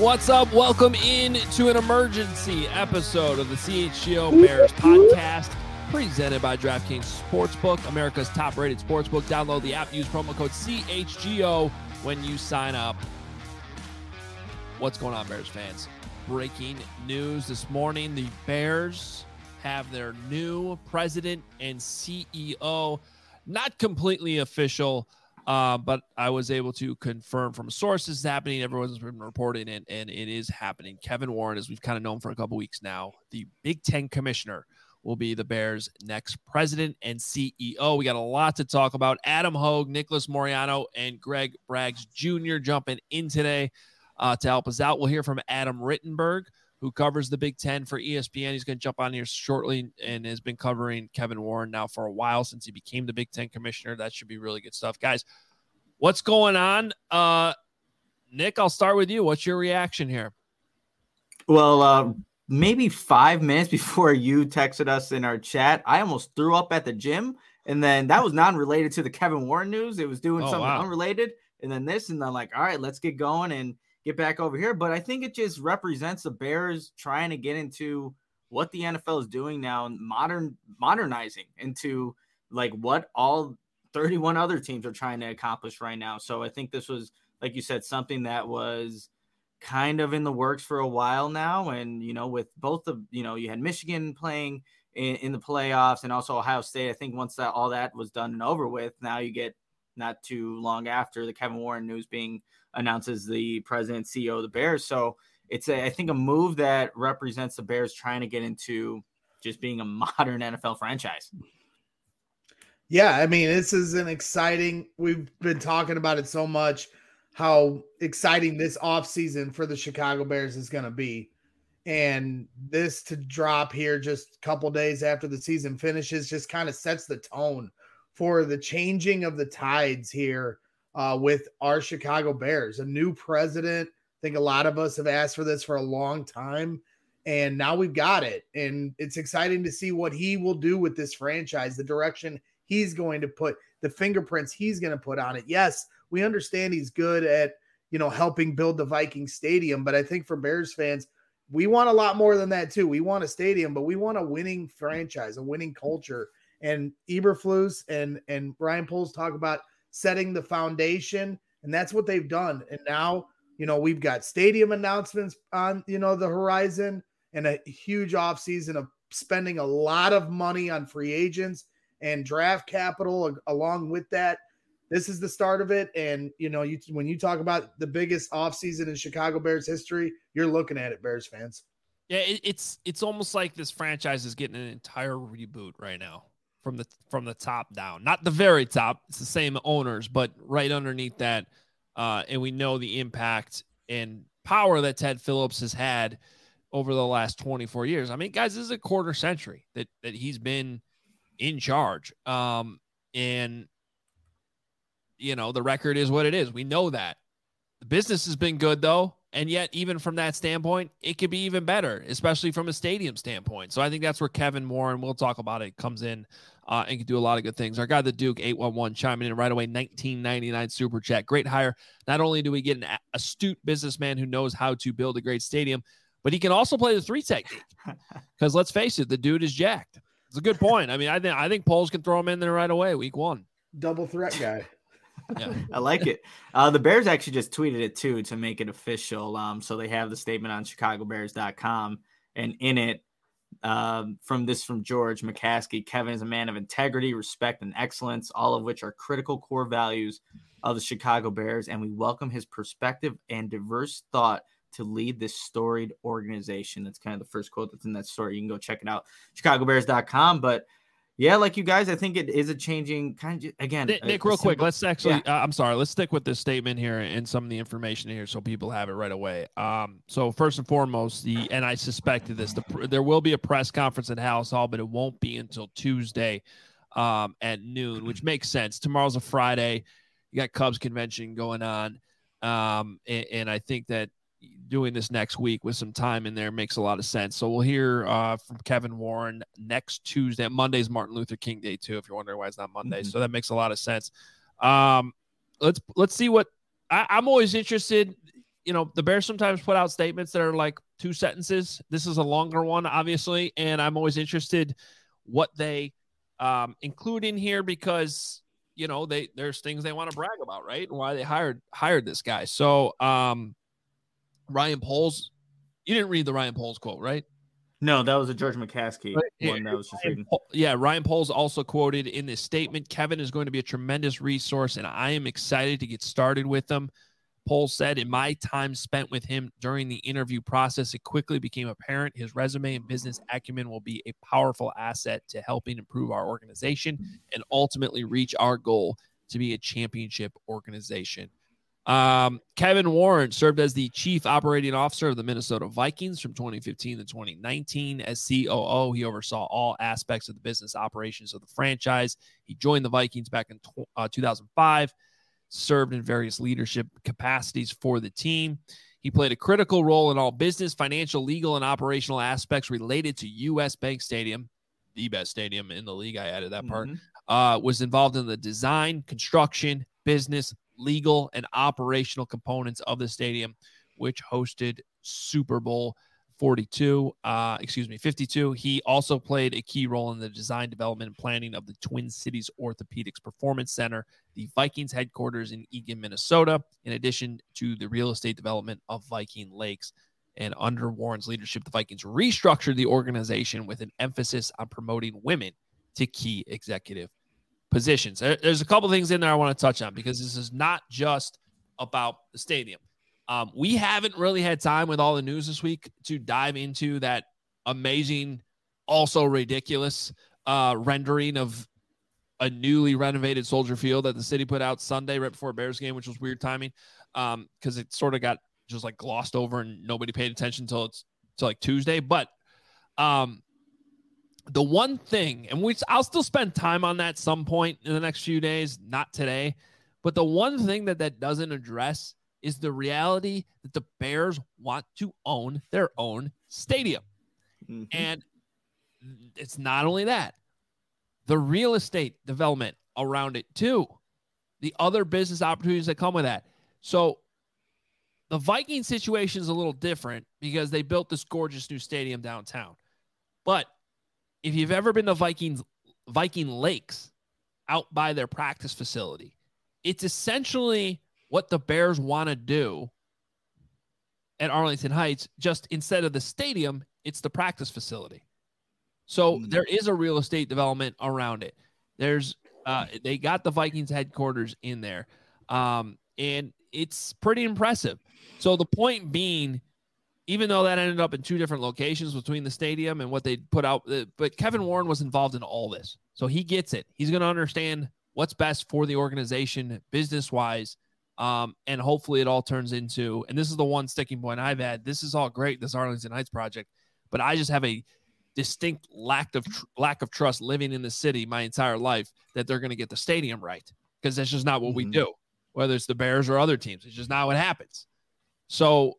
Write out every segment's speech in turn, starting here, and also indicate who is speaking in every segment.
Speaker 1: What's up? Welcome in to an emergency episode of the CHGO Bears podcast, presented by DraftKings Sportsbook, America's top-rated sportsbook. Download the app, use promo code CHGO when you sign up. What's going on, Bears fans? Breaking news this morning. The Bears have their new president and CEO. Not completely official, but I was able to confirm from sources happening. Everyone's been reporting it, and it is happening. Kevin Warren, as we've kind of known for a couple weeks now, the Big Ten commissioner, will be the Bears' next president and CEO. We got a lot to talk about. Adam Hogue, Nicholas Moriano, and Greg Braggs Jr. jumping in today to help us out. We'll hear from Adam Rittenberg, who covers the Big Ten for ESPN. He's going to jump on here shortly and has been covering Kevin Warren now for a while since he became the Big Ten commissioner. That should be really good stuff. Guys, what's going on? Nick, I'll start with you. What's your reaction here?
Speaker 2: Well, maybe 5 minutes before you texted us in our chat, I almost threw up at the gym. And then that was non-related to the Kevin Warren news. It was doing something unrelated. And then this, and I'm like, all right, let's get going and get back over here. But I think it just represents the Bears trying to get into what the NFL is doing now, and modernizing into like what all 31 other teams are trying to accomplish right now. So I think this was, like you said, something that was kind of in the works for a while now. And, you know, with both of, you know, you had Michigan playing in the playoffs and also Ohio State. I think once that all that was done and over with, now you get not too long after the Kevin Warren news being announced as the president CEO of the Bears. So it's I think a move that represents the Bears trying to get into just being a modern NFL franchise.
Speaker 3: Yeah, I mean, this is an exciting, we've been talking about it so much, how exciting this offseason for the Chicago Bears is going to be. And this to drop here just a couple days after the season finishes just kind of sets the tone for the changing of the tides here with our Chicago Bears. A new president. I think a lot of us have asked for this for a long time, and now we've got it. And it's exciting to see what he will do with this franchise, the direction he's going to put, the fingerprints he's going to put on it. Yes, we understand he's good at, you know, helping build the Viking Stadium, but I think for Bears fans, we want a lot more than that too. We want a stadium, but we want a winning franchise, a winning culture. And Eberflus and Ryan Poles talk about setting the foundation, and that's what they've done. And now, you know, we've got stadium announcements on, you know, the horizon, and a huge offseason of spending a lot of money on free agents and draft capital along with that. This is the start of it. And, you know, when you talk about the biggest offseason in Chicago Bears history, you're looking at it, Bears fans.
Speaker 1: Yeah, it's almost like this franchise is getting an entire reboot right now from the top down. Not the very top. It's the same owners, but right underneath that. And we know the impact and power that Ted Phillips has had over the last 24 years. I mean, guys, this is a quarter century that he's been in charge. And, you know, the record is what it is. We know that. The business has been good, though. And yet, even from that standpoint, it could be even better, especially from a stadium standpoint. So I think that's where Kevin Warren, we'll talk about it, comes in and can do a lot of good things. Our guy, the Duke 811, chiming in right away, 1999 super chat. Great hire. Not only do we get an astute businessman who knows how to build a great stadium, but he can also play the 3 technique. Because let's face it, the dude is jacked. It's a good point. I mean, I think Poles can throw him in there right away, week 1.
Speaker 3: Double threat guy.
Speaker 1: Yeah.
Speaker 2: I like it. The Bears actually just tweeted it too to make it official. So they have the statement on chicagobears.com, and in it, from George McCaskey, Kevin is a man of integrity, respect, and excellence, all of which are critical core values of the Chicago Bears, and we welcome his perspective and diverse thought to lead this storied organization. That's kind of the first quote that's in that story. You can go check it out, chicagobears.com. But yeah, like you guys, I think it is a changing kind of, again.
Speaker 1: Nick, real quick, let's actually, I'm sorry, let's stick with this statement here and some of the information here so people have it right away. So first and foremost, and I suspected this, there will be a press conference at Halas Hall, but it won't be until Tuesday at noon, which makes sense. Tomorrow's a Friday. You got Cubs convention going on. And I think that doing this next week with some time in there makes a lot of sense. So we'll hear from Kevin Warren next Tuesday. Monday's Martin Luther King Day too, if you're wondering why it's not Monday. So that makes a lot of sense. Let's see what I'm always interested. the Bears sometimes put out statements that are like 2 sentences. This is a longer one, obviously, and I'm always interested what they include in here because, there's things they want to brag about, right? And why they hired this guy. So Ryan Poles, you didn't read the Ryan Poles quote, right?
Speaker 2: No, that was a George McCaskey one that was just reading.
Speaker 1: Yeah, Ryan Poles also quoted in this statement, Kevin is going to be a tremendous resource, and I am excited to get started with him. Poles said, in my time spent with him during the interview process, it quickly became apparent his resume and business acumen will be a powerful asset to helping improve our organization and ultimately reach our goal to be a championship organization. Kevin Warren served as the chief operating officer of the Minnesota Vikings from 2015 to 2019. As COO, he oversaw all aspects of the business operations of the franchise. He joined the Vikings back in 2005, served in various leadership capacities for the team. He played a critical role in all business, financial, legal, and operational aspects related to U.S. Bank Stadium, the best stadium in the league. I added that part. Was involved in the design, construction, business, legal, and operational components of the stadium, which hosted Super Bowl 52. He also played a key role in the design, development, and planning of the Twin Cities Orthopedics Performance Center, the Vikings headquarters in Eagan, Minnesota, in addition to the real estate development of Viking Lakes. And under Warren's leadership, the Vikings restructured the organization with an emphasis on promoting women to key executive positions. There's a couple things in there I want to touch on because this is not just about the stadium. We haven't really had time with all the news this week to dive into that amazing, also ridiculous rendering of a newly renovated Soldier Field that the city put out Sunday right before Bears game, which was weird timing because it sort of got just like glossed over and nobody paid attention until like Tuesday. But the one thing, and I'll still spend time on that some point in the next few days, not today, but the one thing that doesn't address is the reality that the Bears want to own their own stadium. Mm-hmm. And it's not only that, the real estate development around it too, the other business opportunities that come with that. So the Viking situation is a little different because they built this gorgeous new stadium downtown. But if you've ever been to Viking Lakes out by their practice facility, it's essentially what the Bears want to do at Arlington Heights. Just instead of the stadium, it's the practice facility. So there is a real estate development around it. They got the Vikings headquarters in there. And it's pretty impressive. So the point being, even though that ended up in 2 different locations between the stadium and what they put out, but Kevin Warren was involved in all this. So he gets it. He's going to understand what's best for the organization business-wise. And hopefully it all turns into, and this is the one sticking point I've had, this is all great, this Arlington Heights project, but I just have a distinct lack of trust living in the city my entire life that they're going to get the stadium right, because that's just not what we do, whether it's the Bears or other teams. It's just not what happens. So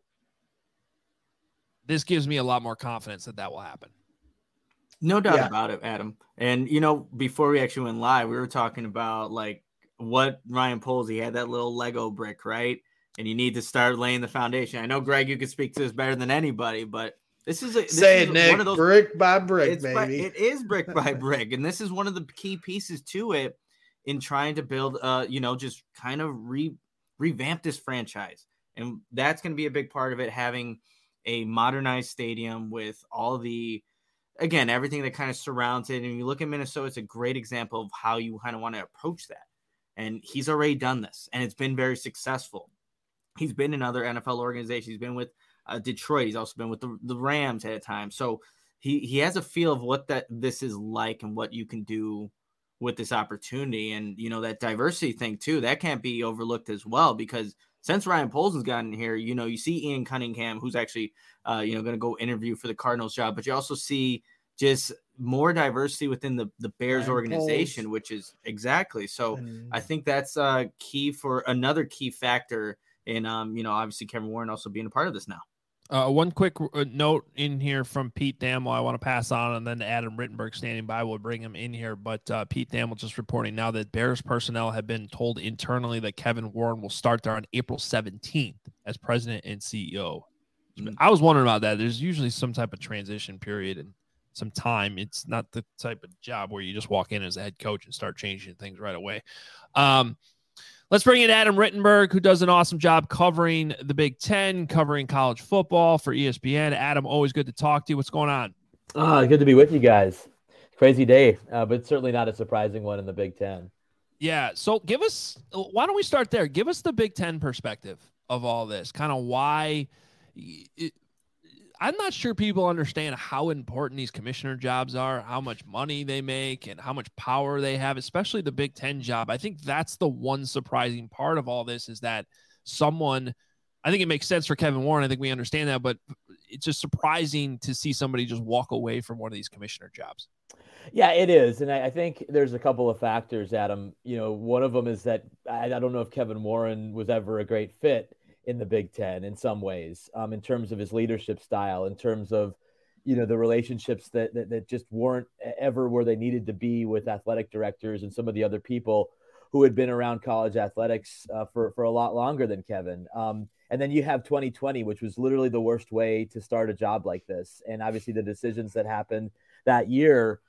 Speaker 1: this gives me a lot more confidence that will happen.
Speaker 2: No doubt about it, Adam. And, before we actually went live, we were talking about like what Ryan Poles, he had that little Lego brick, right? And you need to start laying the foundation. I know, Greg, you can speak to this better than anybody, but Nick,
Speaker 3: one of those, brick by brick, baby.
Speaker 2: It is brick by brick. And this is one of the key pieces to it in trying to build, just kind of revamp this franchise. And that's going to be a big part of it, having a modernized stadium with all the, again, everything that kind of surrounds it. And you look at Minnesota, it's a great example of how you kind of want to approach that. And he's already done this, and it's been very successful. He's been in other NFL organizations. He's been with Detroit. He's also been with the Rams at a time. So he has a feel of what this is like and what you can do with this opportunity. And, that diversity thing too, that can't be overlooked as well, because since Ryan Poles has gotten here, you see Ian Cunningham, who's actually, going to go interview for the Cardinals job, but you also see just more diversity within the Bears Ryan organization, Poles. Which is exactly. So I think that's key for another key factor in, obviously Kevin Warren also being a part of this now.
Speaker 1: One quick note in here from Pete Thamel I want to pass on, and then Adam Rittenberg standing by. We'll bring him in here. But Pete Thamel just reporting now that Bears personnel have been told internally that Kevin Warren will start there on April 17th as president and CEO. I was wondering about that. There's usually some type of transition period and some time. It's not the type of job where you just walk in as a head coach and start changing things right away. Let's bring in Adam Rittenberg, who does an awesome job covering the Big Ten, covering college football for ESPN. Adam, always good to talk to you. What's going on?
Speaker 4: Good to be with you guys. Crazy day, but certainly not a surprising one in the Big Ten.
Speaker 1: Yeah, so why don't we start there? Give us the Big Ten perspective of all this, kind of why I'm not sure people understand how important these commissioner jobs are, how much money they make, and how much power they have, especially the Big Ten job. I think that's the one surprising part of all this is that I think it makes sense for Kevin Warren. I think we understand that, but it's just surprising to see somebody just walk away from one of these commissioner jobs.
Speaker 4: Yeah, it is. And I think there's a couple of factors, Adam. One of them is that I don't know if Kevin Warren was ever a great fit in the Big Ten in some ways, in terms of his leadership style, in terms of, the relationships that just weren't ever where they needed to be with athletic directors and some of the other people who had been around college athletics for a lot longer than Kevin. And then you have 2020, which was literally the worst way to start a job like this. And obviously the decisions that happened that year,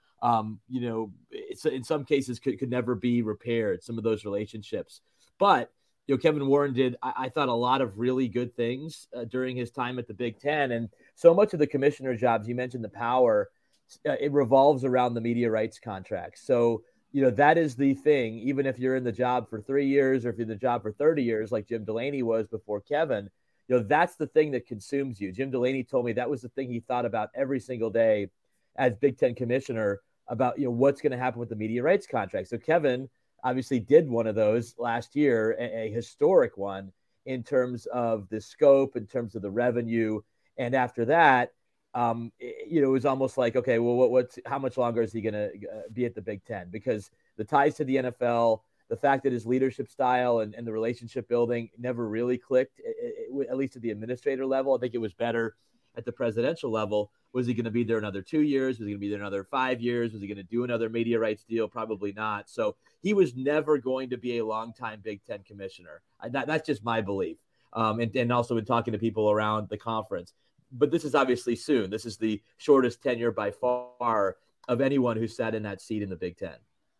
Speaker 4: in some cases could never be repaired, some of those relationships. But Kevin Warren did, I thought, a lot of really good things during his time at the Big Ten. And so much of the commissioner jobs, you mentioned the power, it revolves around the media rights contracts. So, that is the thing, even if you're in the job for 3 years or if you're in the job for 30 years, like Jim Delaney was before Kevin, that's the thing that consumes you. Jim Delaney told me that was the thing he thought about every single day as Big Ten commissioner about, what's going to happen with the media rights contract. So Kevin obviously did one of those last year, a historic one in terms of the scope, in terms of the revenue. And after that, it was almost like, okay, well, how much longer is he going to be at the Big Ten? Because the ties to the NFL, the fact that his leadership style and the relationship building never really clicked, at least at the administrator level. I think it was better at the presidential level. Was he going to be there another 2 years? Was he going to be there another 5 years? Was he going to do another media rights deal? Probably not. So he was never going to be a longtime Big Ten commissioner. That's just my belief. And also in talking to people around the conference. But this is obviously soon. This is the shortest tenure by far of anyone who sat in that seat in the Big Ten.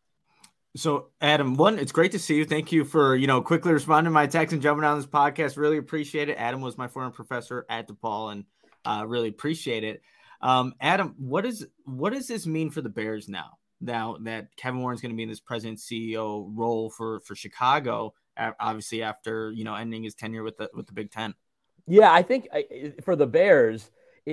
Speaker 2: So, Adam, it's great to see you. Thank you for, quickly responding to my text and jumping on this podcast. Really appreciate it. Adam was my former professor at DePaul, and really appreciate it. Adam, what does this mean for the Bears now that Kevin Warren's going to be in this president CEO role for Chicago, obviously after, ending his tenure with the Big Ten?
Speaker 4: Yeah, I think for the Bears,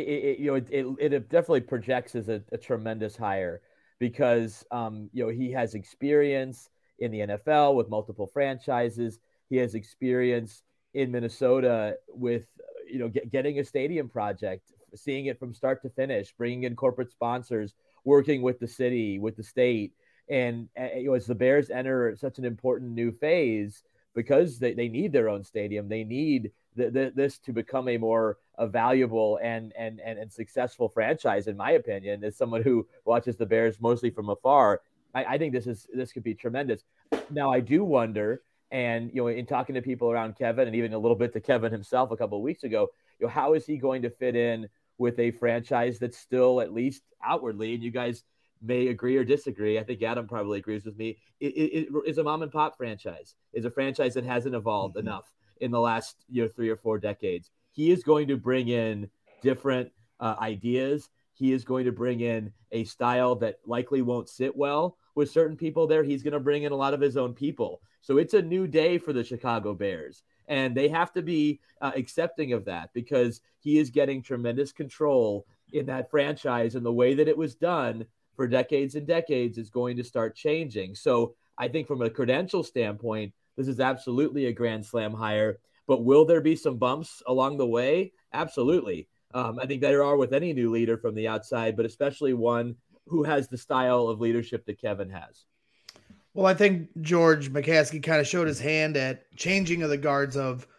Speaker 4: it definitely projects as a tremendous hire because, he has experience in the NFL with multiple franchises. He has experience in Minnesota with, getting a stadium project, seeing it from start to finish, bringing in corporate sponsors, working with the city, with the state. And as the Bears enter such an important new phase, because they need their own stadium, they need this to become a more valuable and successful franchise, in my opinion, as someone who watches the Bears mostly from afar. I think this could be tremendous. Now, I do wonder, and in talking to people around Kevin and even a little bit to Kevin himself a couple of weeks ago, how is he going to fit in with a franchise that's still, at least outwardly, and you guys may agree or disagree, I think Adam probably agrees with me, it is a mom and pop franchise, is a franchise that hasn't evolved enough in the last 3 or 4 decades. He is going to bring in different ideas. He is going to bring in a style that likely won't sit well with certain people there. He's going to bring in a lot of his own people. So it's a new day for the Chicago Bears. And they have to be accepting of that because he is getting tremendous control in that franchise, and the way that it was done for decades and decades is going to start changing. So I think from a credential standpoint, this is absolutely a grand slam hire. But will there be some bumps along the way? Absolutely. I think there are with any new leader from the outside, but especially one who has the style of leadership that Kevin has.
Speaker 3: Well, I think George McCaskey kind of showed his hand at changing of the guards of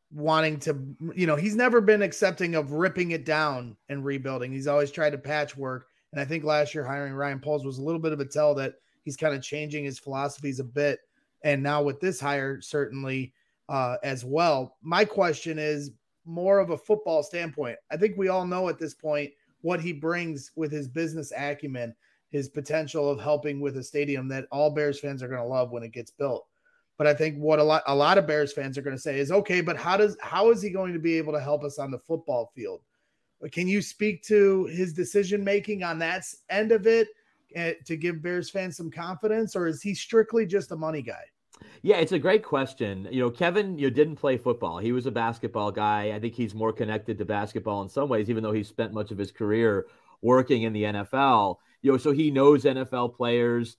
Speaker 3: wanting to, he's never been accepting of ripping it down and rebuilding. He's always tried to patchwork. And I think last year hiring Ryan Poles was a little bit of a tell that he's kind of changing his philosophies a bit. And now with this hire, certainly as well. My question is more of a football standpoint. I think we all know at this point what he brings with his business acumen, his potential of helping with a stadium that all Bears fans are going to love when it gets built. But I think what a lot of Bears fans are going to say is, okay, but how is he going to be able to help us on the football field? Can you speak to his decision-making on that end of it to give Bears fans some confidence, or is he strictly just a money guy?
Speaker 4: Yeah, it's a great question. Kevin, didn't play football. He was a basketball guy. I think he's more connected to basketball in some ways, even though he spent much of his career working in the NFL. So he knows NFL players.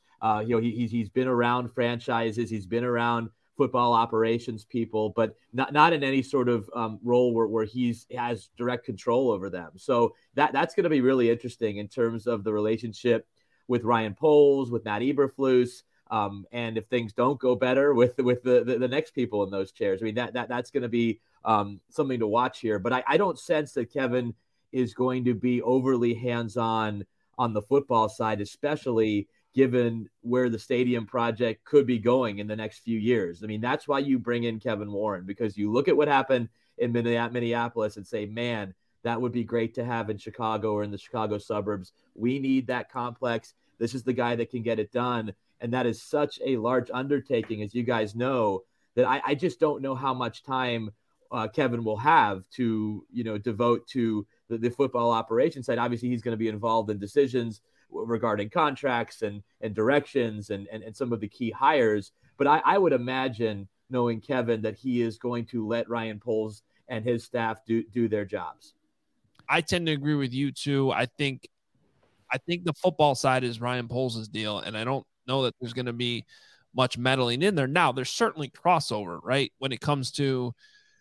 Speaker 4: He's been around franchises. He's been around football operations people, but not in any sort of role where has direct control over them. So that's going to be really interesting in terms of the relationship with Ryan Poles, with Matt Eberflus, and if things don't go better with the next people in those chairs. I mean, that's going to be something to watch here. But I don't sense that Kevin is going to be overly hands-on on the football side, especially given where the stadium project could be going in the next few years. I mean, that's why you bring in Kevin Warren, because you look at what happened in Minneapolis and say, man, that would be great to have in Chicago or in the Chicago suburbs. We need that complex. This is the guy that can get it done. And that is such a large undertaking, as you guys know, that I just don't know how much time Kevin will have to, devote to the football operations side. Obviously, he's going to be involved in decisions regarding contracts and directions and some of the key hires. But I would imagine, knowing Kevin, that he is going to let Ryan Poles and his staff do their jobs.
Speaker 1: I tend to agree with you too. I think the football side is Ryan Poles' deal, and I don't know that there's going to be much meddling in there. Now, there's certainly crossover, right, when it comes to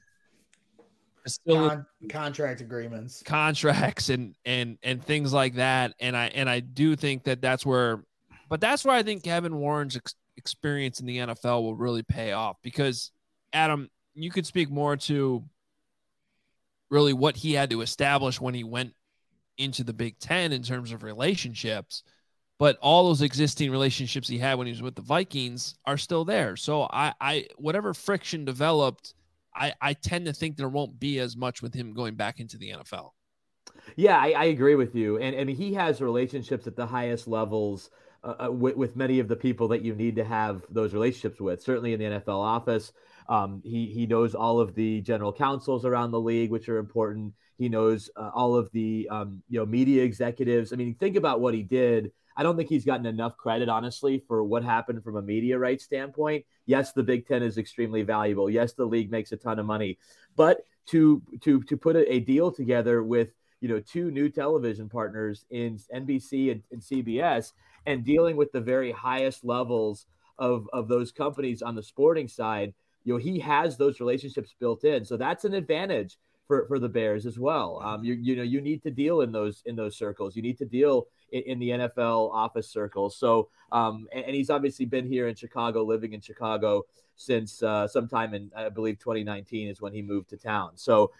Speaker 3: contract agreements,
Speaker 1: contracts and things like that. And I do think that's where I think Kevin Warren's experience in the NFL will really pay off, because Adam, you could speak more to really what he had to establish when he went into the Big Ten in terms of relationships, but all those existing relationships he had when he was with the Vikings are still there. So I whatever friction developed, I tend to think there won't be as much with him going back into the NFL.
Speaker 4: Yeah, I agree with you. And I mean, he has relationships at the highest levels with many of the people that you need to have those relationships with, certainly in the NFL office. He knows all of the general counsels around the league, which are important. He knows all of the media executives. I mean, think about what he did. I don't think he's gotten enough credit, honestly, for what happened from a media rights standpoint. Yes, the Big Ten is extremely valuable. Yes, the league makes a ton of money. But to put a deal together with two new television partners in NBC and CBS, and dealing with the very highest levels of those companies on the sporting side, he has those relationships built in. So that's an advantage for the Bears as well. You need to deal in those circles. You need to deal in the NFL office circles. So, and he's obviously been here in Chicago, living in Chicago since sometime in, I believe, 2019 is when he moved to town. So,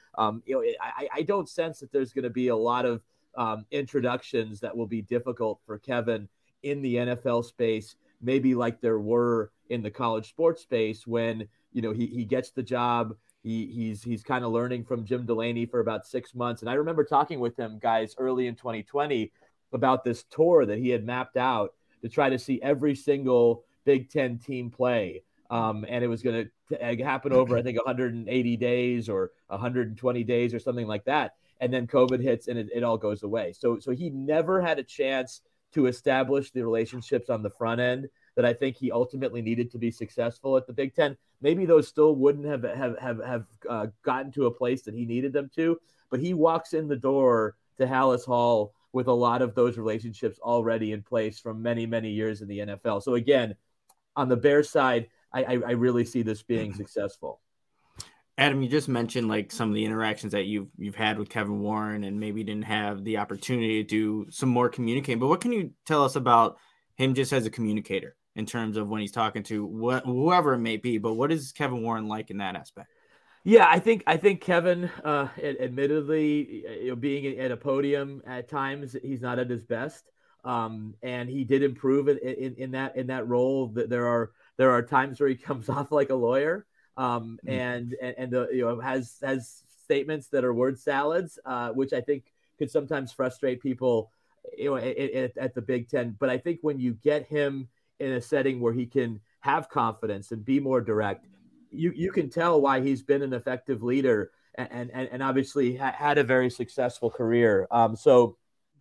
Speaker 4: I don't sense that there's going to be a lot of introductions that will be difficult for Kevin in the NFL space, maybe like there were in the college sports space when, he gets the job. He's kind of learning from Jim Delaney for about 6 months. And I remember talking with him, guys, early in 2020 about this tour that he had mapped out to try to see every single Big Ten team play. And it was going to happen over, I think, 180 days or 120 days or something like that. And then COVID hits and it all goes away. So he never had a chance to establish the relationships on the front end that I think he ultimately needed to be successful at the Big Ten. Maybe those still wouldn't have gotten to a place that he needed them to, but he walks in the door to Halas Hall with a lot of those relationships already in place from many, many years in the NFL. So again, on the Bears side, I really see this being successful.
Speaker 2: Adam, you just mentioned like some of the interactions that you've had with Kevin Warren and maybe didn't have the opportunity to do some more communicating, but what can you tell us about him just as a communicator in terms of when he's talking to whoever it may be, but what is Kevin Warren like in that aspect?
Speaker 4: Yeah, I think Kevin, admittedly, being at a podium at times, he's not at his best. And he did improve in that role. That there are times where he comes off like a lawyer, and has statements that are word salads, which I think could sometimes frustrate people, at the Big Ten. But I think when you get him in a setting where he can have confidence and be more direct, you can tell why he's been an effective leader and obviously had a very successful career. So,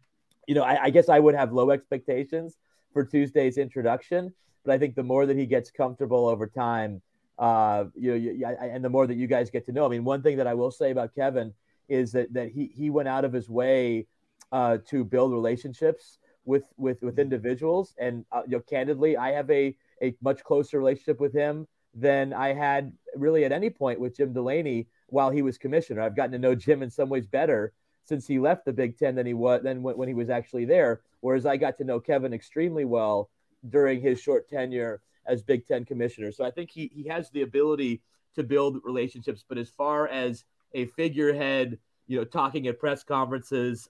Speaker 4: I guess I would have low expectations for Tuesday's introduction, but I think the more that he gets comfortable over time, and the more that you guys get to know. I mean, one thing that I will say about Kevin is that he went out of his way to build relationships with individuals, and candidly, I have a much closer relationship with him than I had really at any point with Jim Delaney while he was commissioner. I've gotten to know Jim in some ways better since he left the Big Ten than when he was actually there. Whereas I got to know Kevin extremely well during his short tenure as Big Ten commissioner. So I think he has the ability to build relationships. But as far as a figurehead, talking at press conferences,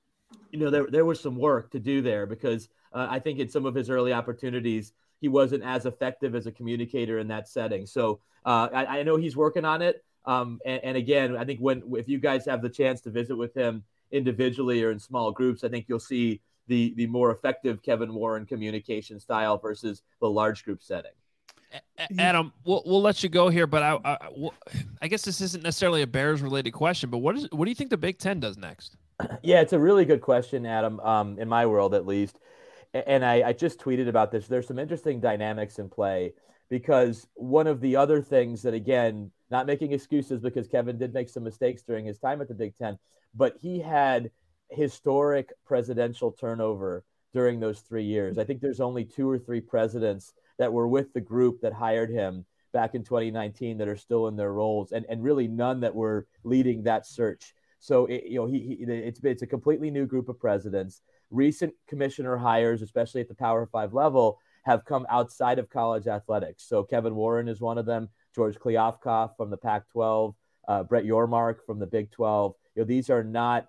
Speaker 4: there was some work to do there because I think in some of his early opportunities, he wasn't as effective as a communicator in that setting. So I know he's working on it. And again, I think if you guys have the chance to visit with him individually or in small groups, I think you'll see the more effective Kevin Warren communication style versus the large group setting.
Speaker 1: Adam, we'll let you go here, but I guess this isn't necessarily a Bears related question, but what do you think the Big Ten does next?
Speaker 4: Yeah, it's a really good question, Adam, in my world at least. And I just tweeted about this. There's some interesting dynamics in play because one of the other things that, again, not making excuses because Kevin did make some mistakes during his time at the Big Ten, but he had historic presidential turnover during those 3 years. I think there's only 2 or 3 presidents that were with the group that hired him back in 2019 that are still in their roles, and really none that were leading that search. So it's a completely new group of presidents. Recent commissioner hires, especially at the Power 5 level, have come outside of college athletics. So Kevin Warren is one of them, George Kliavkoff from the Pac-12, Brett Yormark from the Big 12. These are not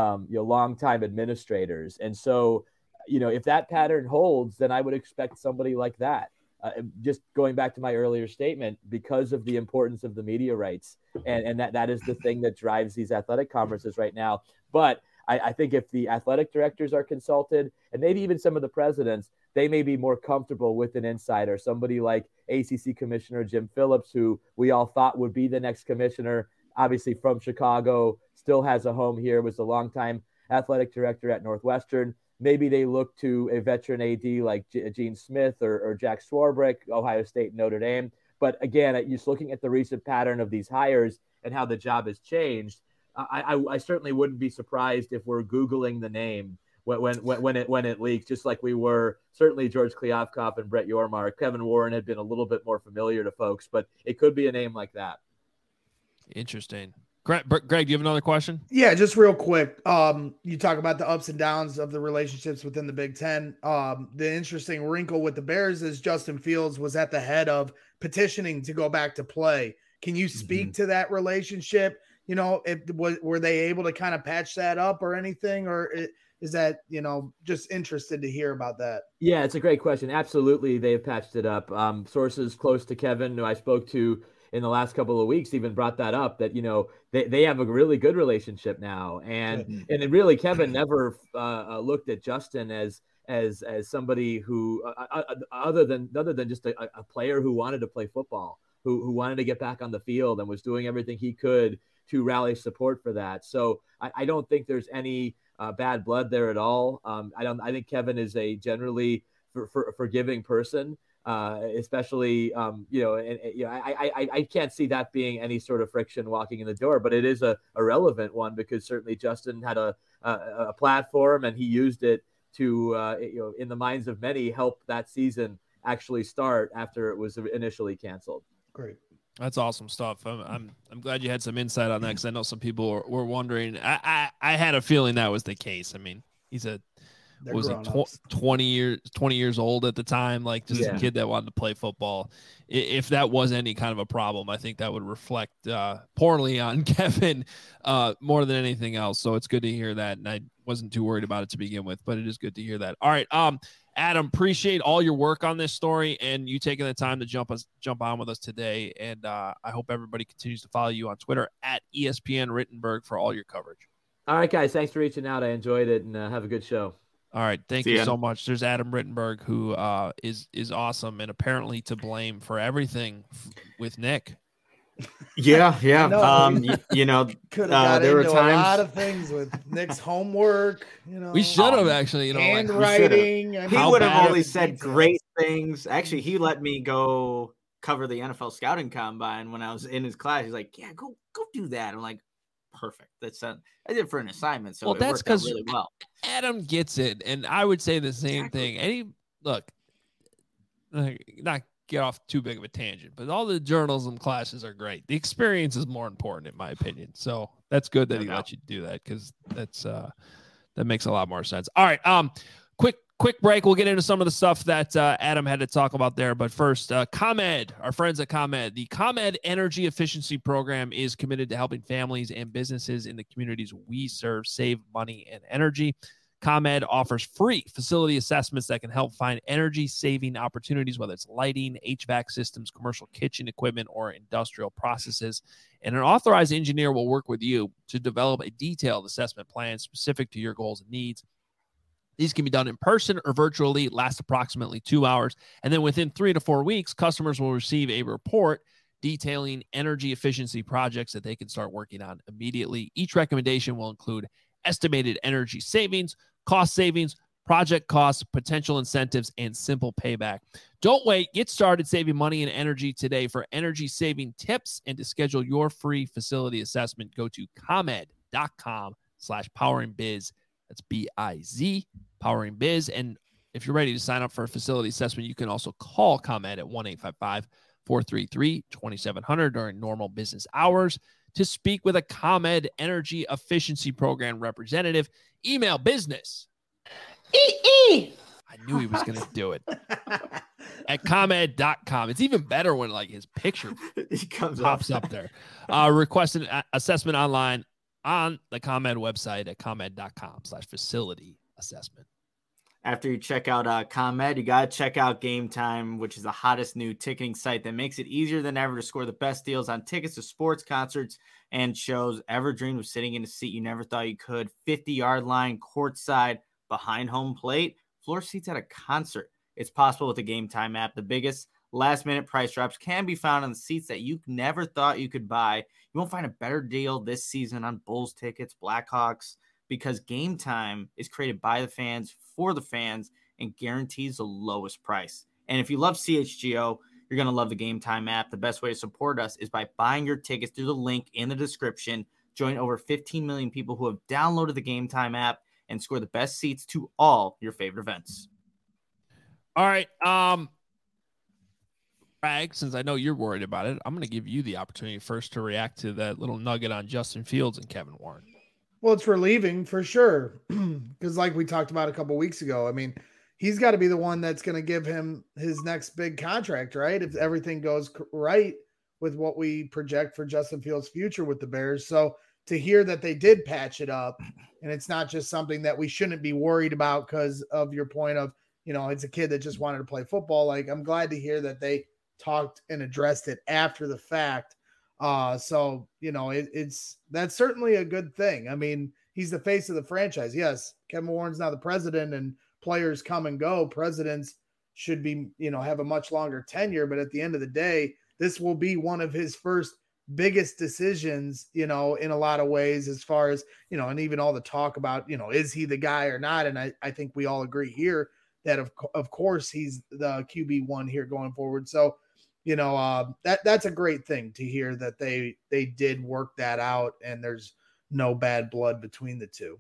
Speaker 4: longtime administrators. And so, if that pattern holds, then I would expect somebody like that. Just going back to my earlier statement, because of the importance of the media rights, and that is the thing that drives these athletic conferences right now. But I think if the athletic directors are consulted, and maybe even some of the presidents, they may be more comfortable with an insider, somebody like ACC Commissioner Jim Phillips, who we all thought would be the next commissioner, obviously from Chicago, still has a home here, was a longtime athletic director at Northwestern. Maybe they look to a veteran AD like Gene Smith or Jack Swarbrick, Ohio State and Notre Dame. But again, just looking at the recent pattern of these hires and how the job has changed, I certainly wouldn't be surprised if we're Googling the name when it leaks, just like we were certainly George Kliavkoff and Brett Yormark. Kevin Warren had been a little bit more familiar to folks, but it could be a name like that.
Speaker 1: Interesting. Greg, do you have another question?
Speaker 3: Yeah, just real quick. You talk about the ups and downs of the relationships within the Big Ten. The interesting wrinkle with the Bears is Justin Fields was at the head of petitioning to go back to play. Can you speak to that relationship? Were they able to kind of patch that up or anything, or is that, just interested to hear about that?
Speaker 4: Yeah, it's a great question. Absolutely. They have patched it up. Sources close to Kevin who I spoke to in the last couple of weeks even brought that up, that, they have a really good relationship now. And really Kevin never looked at Justin as somebody who, other than just a player who wanted to play football, who wanted to get back on the field and was doing everything he could to rally support for that. So I don't think there's any bad blood there at all. I think Kevin is a generally forgiving person, especially, I can't see that being any sort of friction walking in the door, but it is a relevant one because certainly Justin had a platform and he used it to, in the minds of many, help that season actually start after it was initially canceled.
Speaker 3: Great.
Speaker 1: That's awesome stuff. I'm glad you had some insight on that because I know some people were wondering. I had a feeling that was the case. I mean, he's was he 20 years old at the time, like just a kid that wanted to play football. If that was any kind of a problem, I think that would reflect poorly on Kevin more than anything else. So it's good to hear that, and I wasn't too worried about it to begin with, but it is good to hear that. All right, Adam, appreciate all your work on this story and you taking the time to jump on with us today. And I hope everybody continues to follow you on Twitter at ESPN Rittenberg for all your coverage.
Speaker 4: All right, guys, thanks for reaching out. I enjoyed it, and have a good show.
Speaker 1: All right, thank you so much. There's Adam Rittenberg, who is awesome and apparently to blame for everything with Nick.
Speaker 2: Yeah. You know,
Speaker 3: could have got into a lot of things with Nick's homework. You know,
Speaker 1: we should have actually,
Speaker 3: handwriting.
Speaker 2: He would have only said great things. Actually, he let me go cover the NFL scouting combine when I was in his class. He's like, "Yeah, go do that." I'm like, "Perfect." I did it for an assignment, so it worked out really well.
Speaker 1: Adam gets it, and I would say the same thing. And not get off too big of a tangent, but all the journalism classes are great. The experience is more important, in my opinion. So that's good that he let you do that, because that makes a lot more sense. All right, quick break. We'll get into some of the stuff that Adam had to talk about there. But first, ComEd, our friends at ComEd. The ComEd Energy Efficiency Program is committed to helping families and businesses in the communities we serve save money and energy. ComEd offers free facility assessments that can help find energy-saving opportunities, whether it's lighting, HVAC systems, commercial kitchen equipment, or industrial processes. And an authorized engineer will work with you to develop a detailed assessment plan specific to your goals and needs. These can be done in person or virtually, last approximately 2 hours. And then within 3 to 4 weeks, customers will receive a report detailing energy efficiency projects that they can start working on immediately. Each recommendation will include estimated energy savings, cost savings, project costs, potential incentives, and simple payback. Don't wait. Get started saving money and energy today. For energy saving tips and to schedule your free facility assessment, go to ComEd.com/poweringbiz. That's BIZ, Powering Biz. And if you're ready to sign up for a facility assessment, you can also call ComEd at 1-855-433-2700 during normal business hours to speak with a ComEd Energy Efficiency Program representative. Email business. I knew he was going to do it. At ComEd.com. It's even better when his picture pops up there. Request an assessment online on the ComEd website at ComEd.com/facility assessment.
Speaker 2: After you check out ComEd, you got to check out Game Time, which is the hottest new ticketing site that makes it easier than ever to score the best deals on tickets to sports, concerts, and shows. Ever dreamed of sitting in a seat you never thought you could? 50-yard line, courtside, behind home plate, floor seats at a concert. It's possible with the Game Time app. The biggest last-minute price drops can be found on the seats that you never thought you could buy. You won't find a better deal this season on Bulls tickets, Blackhawks, because Game Time is created by the fans, for the fans, and guarantees the lowest price. And if you love CHGO, you're going to love the Game Time app. The best way to support us is by buying your tickets through the link in the description. Join over 15 million people who have downloaded the Game Time app and score the best seats to all your favorite events.
Speaker 1: All right. Bragg, since I know you're worried about it, I'm going to give you the opportunity first to react to that little nugget on Justin Fields and Kevin Warren.
Speaker 3: Well, it's relieving for sure. Because like we talked about a couple weeks ago, I mean, he's got to be the one that's going to give him his next big contract, right? If everything goes right with what we project for Justin Fields' future with the Bears. So to hear that they did patch it up, and it's not just something that we shouldn't be worried about because of your point of, it's a kid that just wanted to play football. Like, I'm glad to hear that they talked and addressed it after the fact. So, that's certainly a good thing. I mean, he's the face of the franchise. Yes, Kevin Warren's now the president and players come and go. Presidents should be, have a much longer tenure, but at the end of the day, this will be one of his first biggest decisions, in a lot of ways, as far as, and even all the talk about, is he the guy or not? And I think we all agree here that of course he's the QB1 here going forward. So, that's a great thing to hear that they did work that out and there's no bad blood between the two.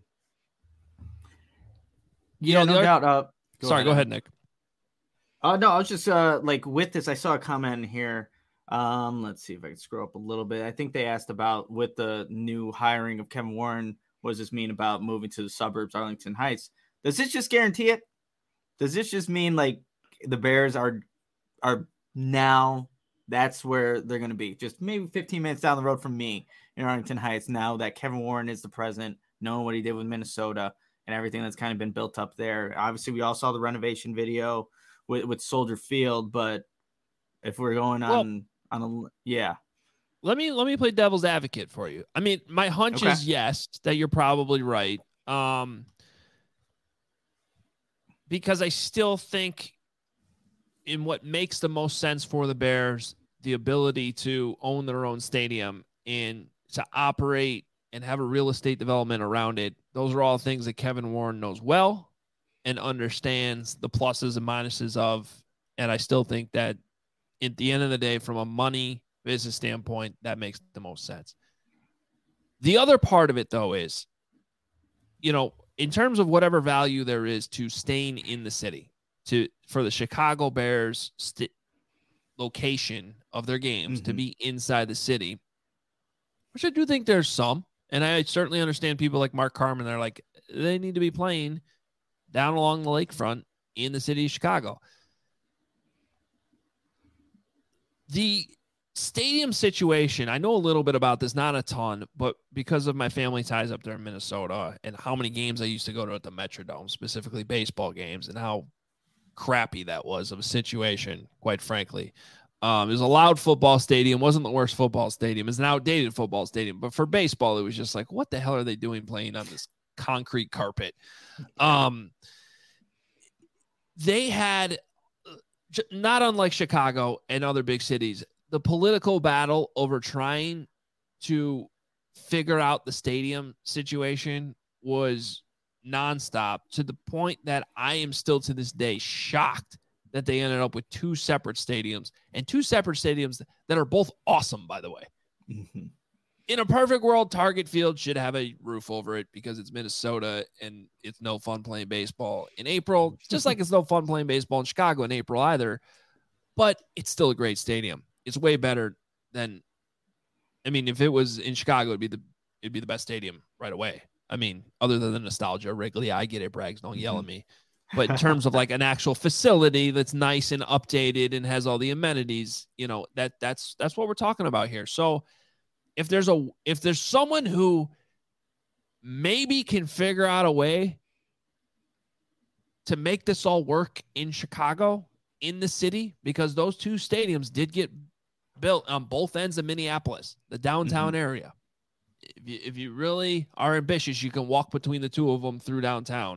Speaker 2: No doubt.
Speaker 1: Go ahead, Nick.
Speaker 2: No, I was just with this, I saw a comment in here. Let's see if I can scroll up a little bit. I think they asked about with the new hiring of Kevin Warren, what does this mean about moving to the suburbs, Arlington Heights? Does this just guarantee it? Does this just mean like the Bears are now that's where they're going to be? Just maybe 15 minutes down the road from me in Arlington Heights, now that Kevin Warren is the president, knowing what he did with Minnesota and everything that's kind of been built up there. Obviously, we all saw the renovation video with Soldier Field, but if we're going on yeah.
Speaker 1: Let me play devil's advocate for you. I mean, my hunch is yes, that you're probably right. Because I still think in what makes the most sense for the Bears, the ability to own their own stadium and to operate and have a real estate development around it. Those are all things that Kevin Warren knows well and understands the pluses and minuses of. And I still think that at the end of the day, from a money business standpoint, that makes the most sense. The other part of it, though, is, in terms of whatever value there is to staying in the city, for the Chicago Bears location of their games to be inside the city, which I do think there's some. And I certainly understand people like Mark Carman. They're like, they need to be playing down along the lakefront in the city of Chicago. The stadium situation, I know a little bit about this, not a ton, but because of my family ties up there in Minnesota and how many games I used to go to at the Metrodome, specifically baseball games, and how crappy that was of a situation, quite frankly. It was a loud football stadium, wasn't the worst football stadium. It's an outdated football stadium, but for baseball, it was just like, what the hell are they doing playing on this concrete carpet? They had, not unlike Chicago and other big cities, the political battle over trying to figure out the stadium situation was nonstop, to the point that I am still to this day shocked that they ended up with two separate stadiums that are both awesome, by the way.
Speaker 2: Mm-hmm.
Speaker 1: In a perfect world, Target Field should have a roof over it because it's Minnesota and it's no fun playing baseball in April, just like it's no fun playing baseball in Chicago in April either. But it's still a great stadium. It's way better than, if it was in Chicago, it'd be the best stadium right away. Other than the nostalgia, Wrigley, I get it, Braggs, don't yell at me. But in terms of like an actual facility that's nice and updated and has all the amenities, that's what we're talking about here. So if there's someone who maybe can figure out a way to make this all work in Chicago, in the city, because those two stadiums did get built on both ends of Minneapolis, the downtown area. If you really are ambitious, you can walk between the two of them through downtown.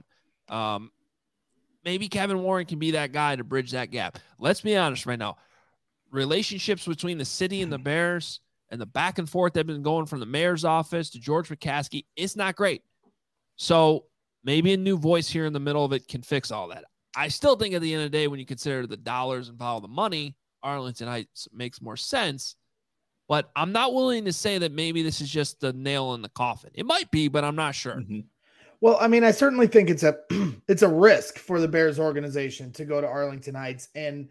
Speaker 1: Maybe Kevin Warren can be that guy to bridge that gap. Let's be honest right now. Relationships between the city and the Bears and the back and forth that have been going from the mayor's office to George McCaskey, it's not great. So maybe a new voice here in the middle of it can fix all that. I still think at the end of the day, when you consider the dollars and follow the money, Arlington Heights makes more sense. But I'm not willing to say that maybe this is just the nail in the coffin. It might be, but I'm not sure.
Speaker 3: Mm-hmm. Well, I certainly think it's a risk for the Bears organization to go to Arlington Heights and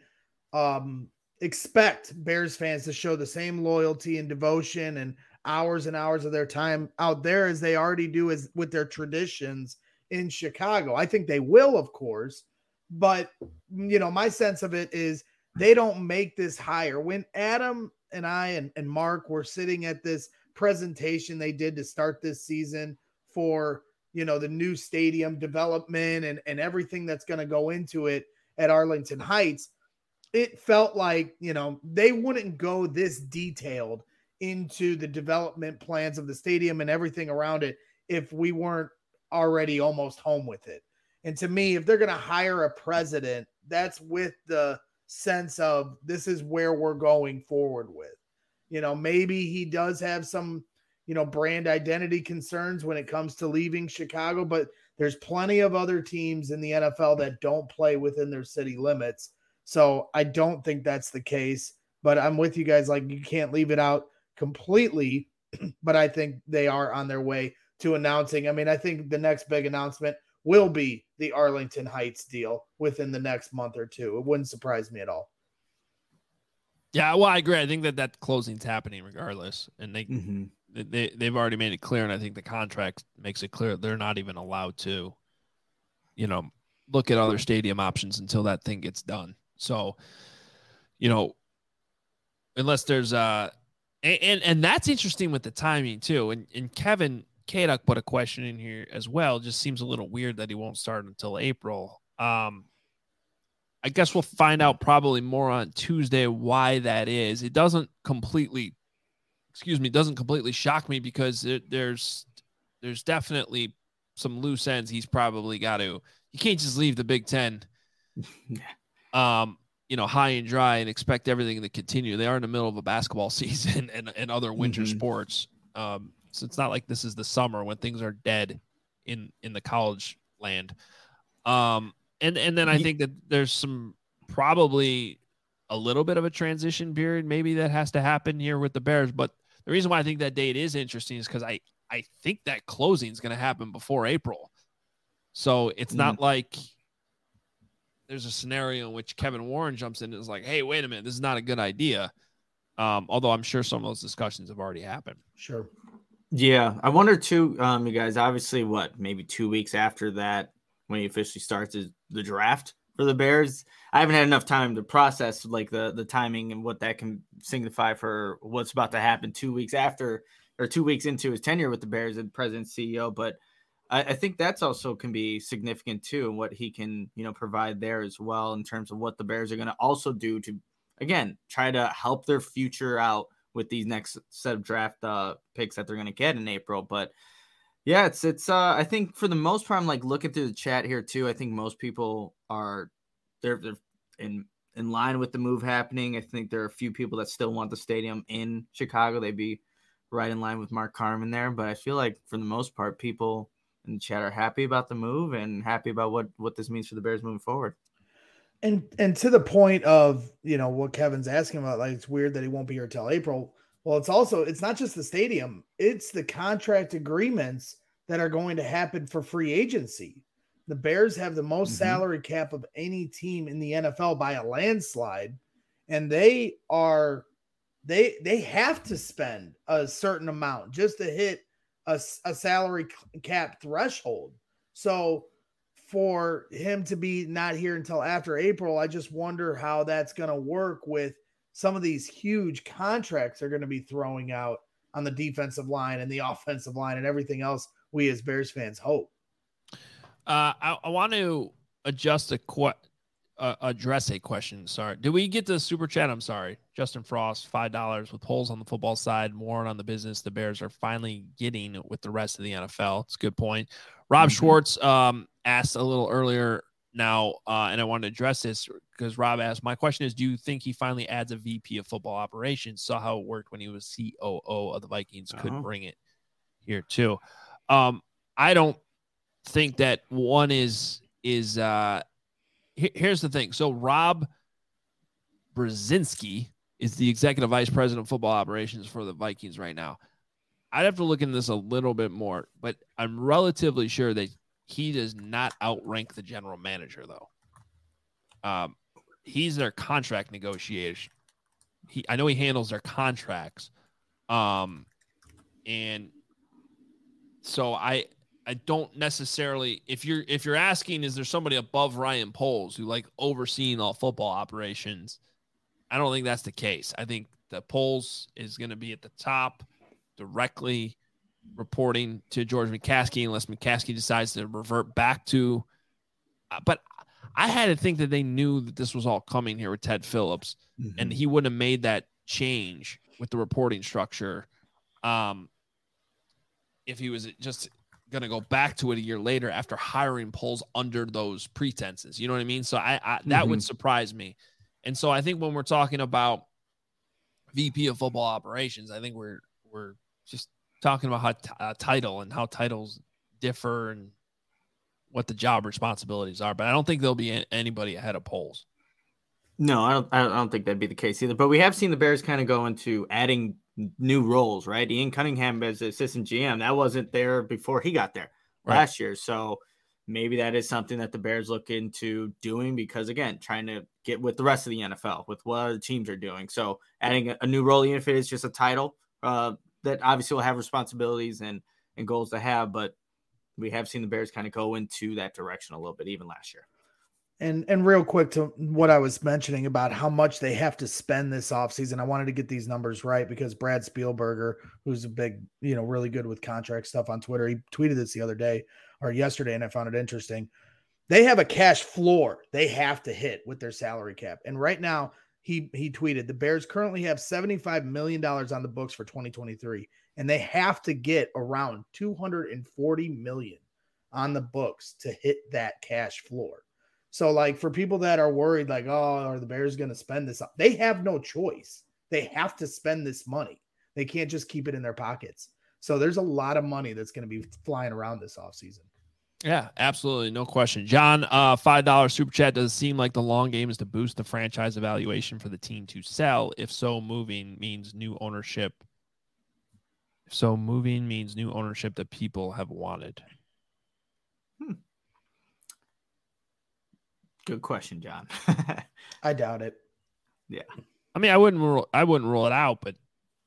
Speaker 3: expect Bears fans to show the same loyalty and devotion and hours of their time out there as they already do as with their traditions in Chicago. I think they will, of course, but my sense of it is they don't make this higher. When Adam and I and Mark were sitting at this presentation they did to start this season for the new stadium development and everything that's going to go into it at Arlington Heights, it felt like, they wouldn't go this detailed into the development plans of the stadium and everything around it if we weren't already almost home with it. And to me, if they're going to hire a president, that's with the sense of this is where we're going forward with. Maybe he does have some brand identity concerns when it comes to leaving Chicago, but there's plenty of other teams in the NFL that don't play within their city limits. So I don't think that's the case, but I'm with you guys. Like, you can't leave it out completely, but I think they are on their way to announcing. I think the next big announcement will be the Arlington Heights deal within the next month or two. It wouldn't surprise me at all.
Speaker 1: Yeah, well, I agree. I think that closing's happening regardless, and they've already made it clear, and I think the contract makes it clear they're not even allowed to look at other stadium options until that thing gets done. So, unless there's and that's interesting with the timing too. And Kevin Kaduk put a question in here as well. Just seems a little weird that he won't start until April. I guess we'll find out probably more on Tuesday why that is. It doesn't completely shock me because there's definitely some loose ends he's probably got to. You can't just leave the Big Ten, high and dry and expect everything to continue. They are in the middle of a basketball season and other winter sports. So it's not like this is the summer when things are dead in the college land. And then I think that there's some probably a little bit of a transition period maybe that has to happen here with the Bears. But the reason why I think that date is interesting is because I think that closing is going to happen before April. So it's not like there's a scenario in which Kevin Warren jumps in and is like, hey, wait a minute, this is not a good idea. Although I'm sure some of those discussions have already happened.
Speaker 3: Sure.
Speaker 2: Yeah. I wonder too, you guys, obviously maybe 2 weeks after that, when he officially starts the draft for the Bears. I haven't had enough time to process like the timing and what that can signify for what's about to happen 2 weeks after or 2 weeks into his tenure with the Bears as president CEO. But I think that's also can be significant too, and what he can, provide there as well in terms of what the Bears are going to also do to, again, try to help their future out with these next set of draft picks that they're going to get in April. But yeah, it's I think for the most part, I'm like looking through the chat here too. I think most people are they're in line with the move happening. I think there are a few people that still want the stadium in Chicago. They'd be right in line with Mark Carman there. But I feel like for the most part, people in the chat are happy about the move and happy about what this means for the Bears moving forward.
Speaker 3: And to the point of, what Kevin's asking about, like, it's weird that he won't be here till April. Well, it's not just the stadium, it's the contract agreements that are going to happen for free agency. The Bears have the most salary cap of any team in the NFL by a landslide. And they have to spend a certain amount just to hit a salary cap threshold. So for him to be not here until after April, I just wonder how that's going to work with some of these huge contracts they're going to be throwing out on the defensive line and the offensive line and everything else we as Bears fans hope.
Speaker 1: I want to address a question. Sorry. Did we get the super chat? I'm sorry. Justin Frost, $5 with polls on the football side, more on the business the Bears are finally getting with the rest of the NFL. It's a good point. Rob Schwartz asked a little earlier now, and I want to address this because Rob asked, my question is, do you think he finally adds a VP of football operations? Saw how it worked when he was COO of the Vikings. Could bring it here too. I don't think that one is here's the thing. So Rob Brzezinski is the executive vice president of football operations for the Vikings right now. I'd have to look into this a little bit more, but I'm relatively sure that he does not outrank the general manager, though. He's their contract negotiation. I know he handles their contracts. And so I don't necessarily, if you're asking, is there somebody above Ryan Poles who like overseeing all football operations? I don't think that's the case. I think the Poles is going to be at the top, directly reporting to George McCaskey, unless McCaskey decides to revert back to. But I had to think that they knew that this was all coming here with Ted Phillips, and he wouldn't have made that change with the reporting structure if he was just going to go back to it a year later after hiring Poles under those pretenses. You know what I mean? So I that would surprise me. And so I think when we're talking about VP of football operations, I think we're just talking about how title and how titles differ and what the job responsibilities are. But I don't think there'll be anybody ahead of Poles.
Speaker 2: No, I don't think that'd be the case either. But we have seen the Bears kind of go into adding new roles, right? Ian Cunningham as assistant GM, that wasn't there before he got there last year. So maybe that is something that the Bears look into doing because, again, trying to get with the rest of the NFL, with what other teams are doing. So adding a new role, even if it is just a title, that obviously will have responsibilities and goals to have. But we have seen the Bears kind of go into that direction a little bit, even last year.
Speaker 3: And real quick to what I was mentioning about how much they have to spend this offseason, I wanted to get these numbers right because Brad Spielberger, who's a big, really good with contract stuff on Twitter, he tweeted this the other day or yesterday, and I found it interesting. They have a cash floor they have to hit with their salary cap. And right now, he tweeted, the Bears currently have $75 million on the books for 2023, and they have to get around $240 million on the books to hit that cash floor. So, like, for people that are worried, like, oh, are the Bears going to spend this? They have no choice. They have to spend this money. They can't just keep it in their pockets. So there's a lot of money that's going to be flying around this offseason.
Speaker 1: Yeah, absolutely. No question. John, $5 super chat. Does it seem like the long game is to boost the franchise evaluation for the team to sell? If so, moving means new ownership. That people have wanted.
Speaker 2: Good question, John.
Speaker 3: I doubt it.
Speaker 2: Yeah.
Speaker 1: I mean, I wouldn't rule it out, but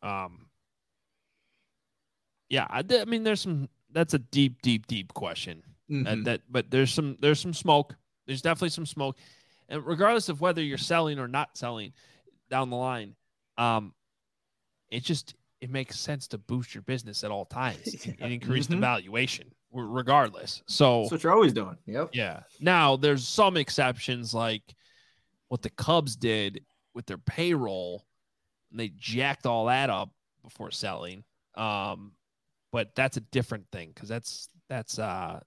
Speaker 1: yeah, I mean, that's a deep question.
Speaker 2: Mm-hmm.
Speaker 1: But there's some smoke. There's definitely some smoke. And regardless of whether you're selling or not selling down the line, it makes sense to boost your business at all times and increase the valuation regardless. So
Speaker 2: that's what you're always doing. Yep.
Speaker 1: Yeah. Now there's some exceptions like what the Cubs did with their payroll. And they jacked all that up before selling. But that's a different thing because that's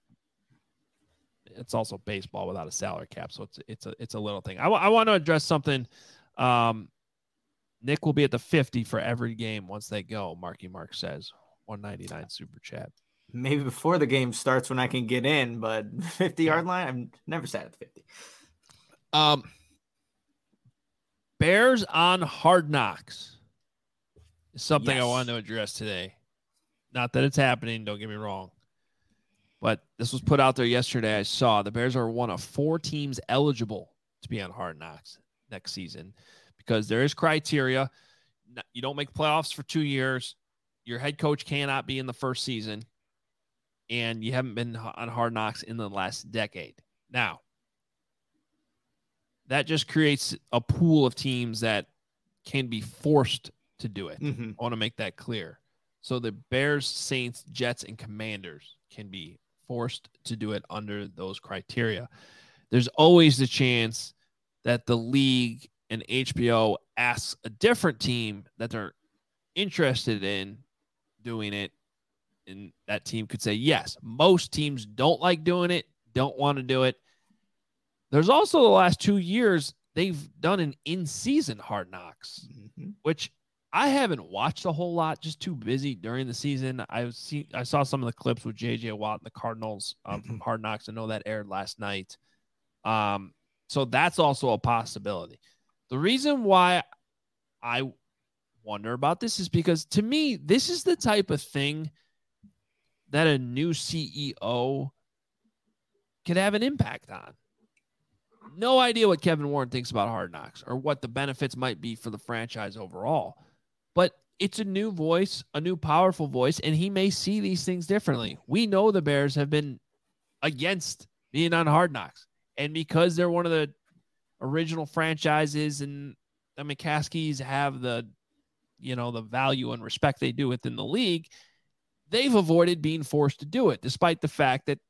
Speaker 1: it's also baseball without a salary cap. So it's a little thing. I want to address something. Nick will be at the 50 for every game once they go. Marky Mark says 199 super chat.
Speaker 2: Maybe before the game starts when I can get in, but 50-yard line, I've never sat at the 50.
Speaker 1: Bears on Hard Knocks is something
Speaker 2: Yes.
Speaker 1: I wanted to address today. Not that it's happening, don't get me wrong. But this was put out there yesterday. I saw the Bears are one of 4 teams eligible to be on Hard Knocks next season because there is criteria. You don't make playoffs for 2 years. Your head coach cannot be in the first season. And you haven't been on Hard Knocks in the last decade. Now, that just creates a pool of teams that can be forced to do it.
Speaker 2: Mm-hmm.
Speaker 1: I want to make that clear. So the Bears, Saints, Jets, and Commanders can be forced to do it under those criteria. There's always the chance that the league and HBO asks a different team that they're interested in doing it, and that team could say yes. Most teams don't like doing it, don't want to do it. There's also the last 2 years, they've done an in-season Hard Knocks, which I haven't watched a whole lot, just too busy during the season. I saw some of the clips with J.J. Watt and the Cardinals from Hard Knocks. I know that aired last night. So that's also a possibility. The reason why I wonder about this is because, to me, this is the type of thing that a new CEO could have an impact on. No idea what Kevin Warren thinks about Hard Knocks or what the benefits might be for the franchise overall. But it's a new voice, a new powerful voice, and he may see these things differently. We know the Bears have been against being on Hard Knocks. And because they're one of the original franchises and the McCaskies have the value and respect they do within the league, they've avoided being forced to do it, despite the fact that,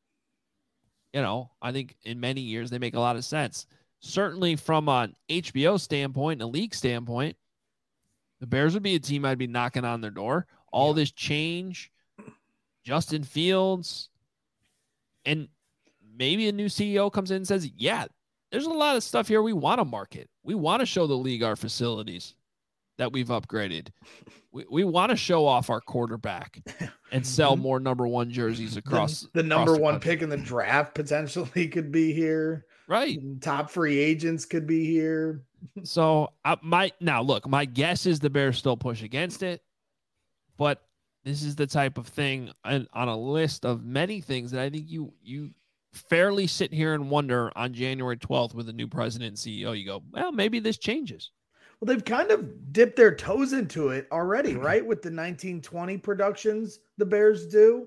Speaker 1: I think in many years they make a lot of sense. Certainly from an HBO standpoint and a league standpoint, the Bears would be a team I'd be knocking on their door. All this change, Justin Fields, and maybe a new CEO comes in and says, yeah, there's a lot of stuff here we want to market. We want to show the league our facilities that we've upgraded. We want to show off our quarterback and sell more number 1 jerseys across
Speaker 3: the number 1
Speaker 1: country.
Speaker 3: pick in the draft potentially could be here.
Speaker 1: Right.
Speaker 3: Top free agents could be here.
Speaker 1: So my guess is the Bears still push against it, but this is the type of thing on a list of many things that I think you fairly sit here and wonder on January 12th with a new president and CEO. You go, well, maybe this changes.
Speaker 3: Well, they've kind of dipped their toes into it already, right? With the 1920 productions the Bears do.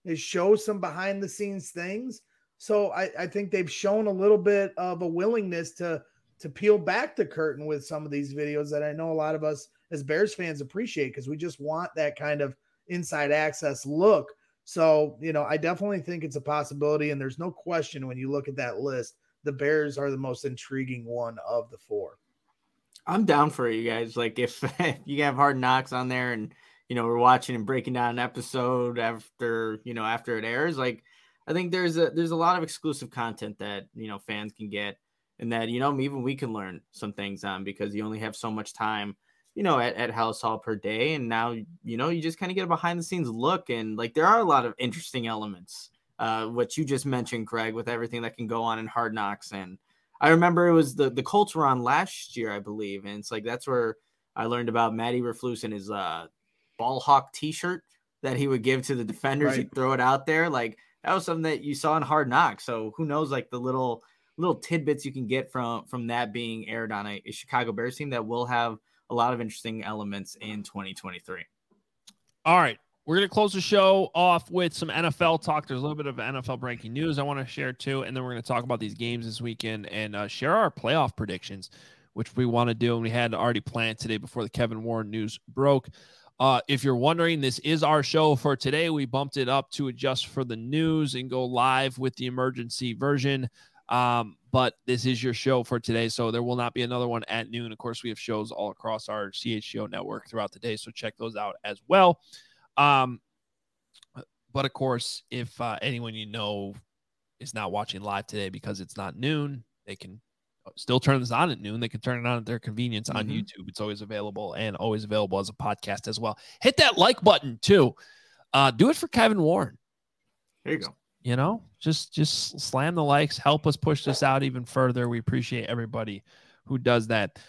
Speaker 3: They show some behind the scenes things. So I think they've shown a little bit of a willingness to peel back the curtain with some of these videos that I know a lot of us as Bears fans appreciate, because we just want that kind of inside access look. So, I definitely think it's a possibility. And there's no question when you look at that list, the Bears are the most intriguing one of the four.
Speaker 2: I'm down for it, you guys. Like if you have Hard Knocks on there and, we're watching and breaking down an episode after it airs, like I think there's a lot of exclusive content that, fans can get, and that, even we can learn some things on, because you only have so much time, at Halas Hall per day. And now, you just kind of get a behind the scenes look. And like, there are a lot of interesting elements, what you just mentioned, Craig, with everything that can go on in Hard Knocks. And I remember it was the Colts were on last year, I believe. And it's like, that's where I learned about Matt Eberflus and his ball hawk t-shirt that he would give to the defenders.
Speaker 3: Right.
Speaker 2: He'd throw it out there. Like, that was something that you saw in Hard Knocks. So who knows, like the little tidbits you can get from that being aired on a Chicago Bears team that will have a lot of interesting elements in 2023.
Speaker 1: All right. We're going to close the show off with some NFL talk. There's a little bit of NFL breaking news I want to share too. And then we're going to talk about these games this weekend and share our playoff predictions, which we want to do. And we had already planned today before the Kevin Warren news broke. If you're wondering, this is our show for today. We bumped it up to adjust for the news and go live with the emergency version. But this is your show for today, so there will not be another one at noon. Of course, we have shows all across our CHGO network throughout the day, so check those out as well. But of course, if anyone is not watching live today because it's not noon, they can still turn this on at noon. They can turn it on at their convenience on YouTube. It's always available, and always available as a podcast as well. Hit that like button too. Do it for Kevin Warren.
Speaker 2: There you go.
Speaker 1: Just slam the likes, help us push this out even further. We appreciate everybody who does that.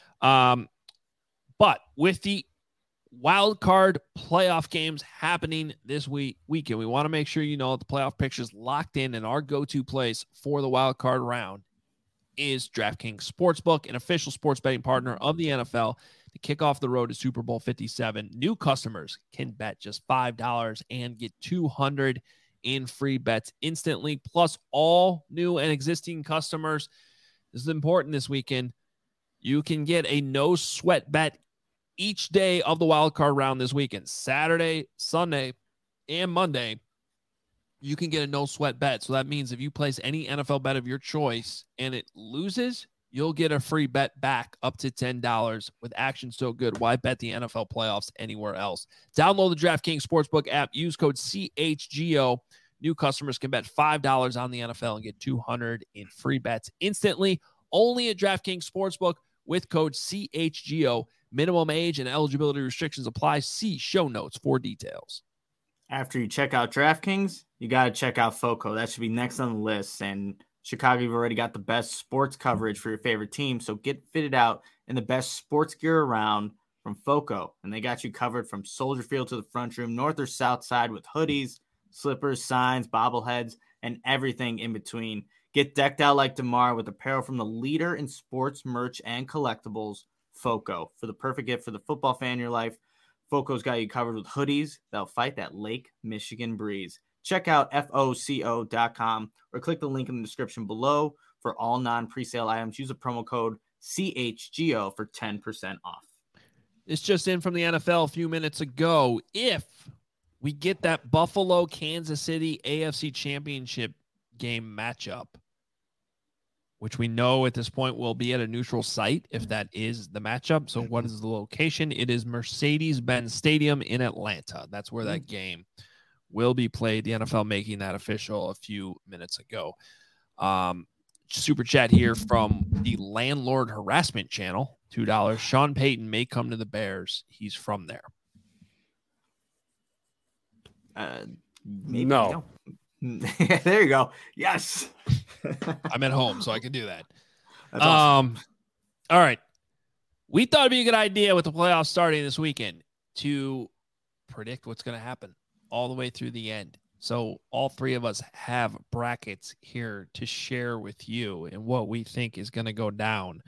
Speaker 1: But with the wild card playoff games happening this weekend, we want to make sure the playoff picture is locked in, and our go-to place for the wild card round is DraftKings Sportsbook, an official sports betting partner of the NFL. To kick off the road to Super Bowl 57, new customers can bet just $5 and get $200 in free bets instantly, plus all new and existing customers. This is important this weekend. You can get a no sweat bet each day of the wild card round this weekend. Saturday, Sunday, and Monday, you can get a no sweat bet. So that means if you place any NFL bet of your choice and it loses, you'll get a free bet back up to $10. With action so good, why bet the NFL playoffs anywhere else? Download the DraftKings Sportsbook app. Use code CHGO. New customers can bet $5 on the NFL and get $200 in free bets instantly. Only at DraftKings Sportsbook with code CHGO. Minimum age and eligibility restrictions apply. See show notes for details.
Speaker 2: After you check out DraftKings, you got to check out FOCO. That should be next on the list. And Chicago, you've already got the best sports coverage for your favorite team. So get fitted out in the best sports gear around from FOCO. And they got you covered from Soldier Field to the front room, north or south side, with hoodies, slippers, signs, bobbleheads, and everything in between. Get decked out like DeMar with apparel from the leader in sports merch and collectibles, FOCO. For the perfect gift for the football fan in your life, FOCO's got you covered with hoodies that'll fight that Lake Michigan breeze. Check out FOCO.com or click the link in the description below for all non-presale items. Use the promo code CHGO for 10% off.
Speaker 1: This just in from the NFL a few minutes ago. If we get that Buffalo-Kansas City AFC Championship game matchup, which we know at this point will be at a neutral site if that is the matchup. So what is the location? It is Mercedes-Benz Stadium in Atlanta. That's where that game will be played. The NFL making that official a few minutes ago. Super chat here from the Landlord Harassment Channel, $2. Sean Payton may come to the Bears. He's from there.
Speaker 2: Maybe
Speaker 5: no.
Speaker 2: There you go. Yes.
Speaker 1: I'm at home, so I can do that.
Speaker 2: That's awesome.
Speaker 1: All right. We thought it'd be a good idea with the playoffs starting this weekend to predict what's going to happen all the way through the end. So all three of us have brackets here to share with you and what we think is going to go down.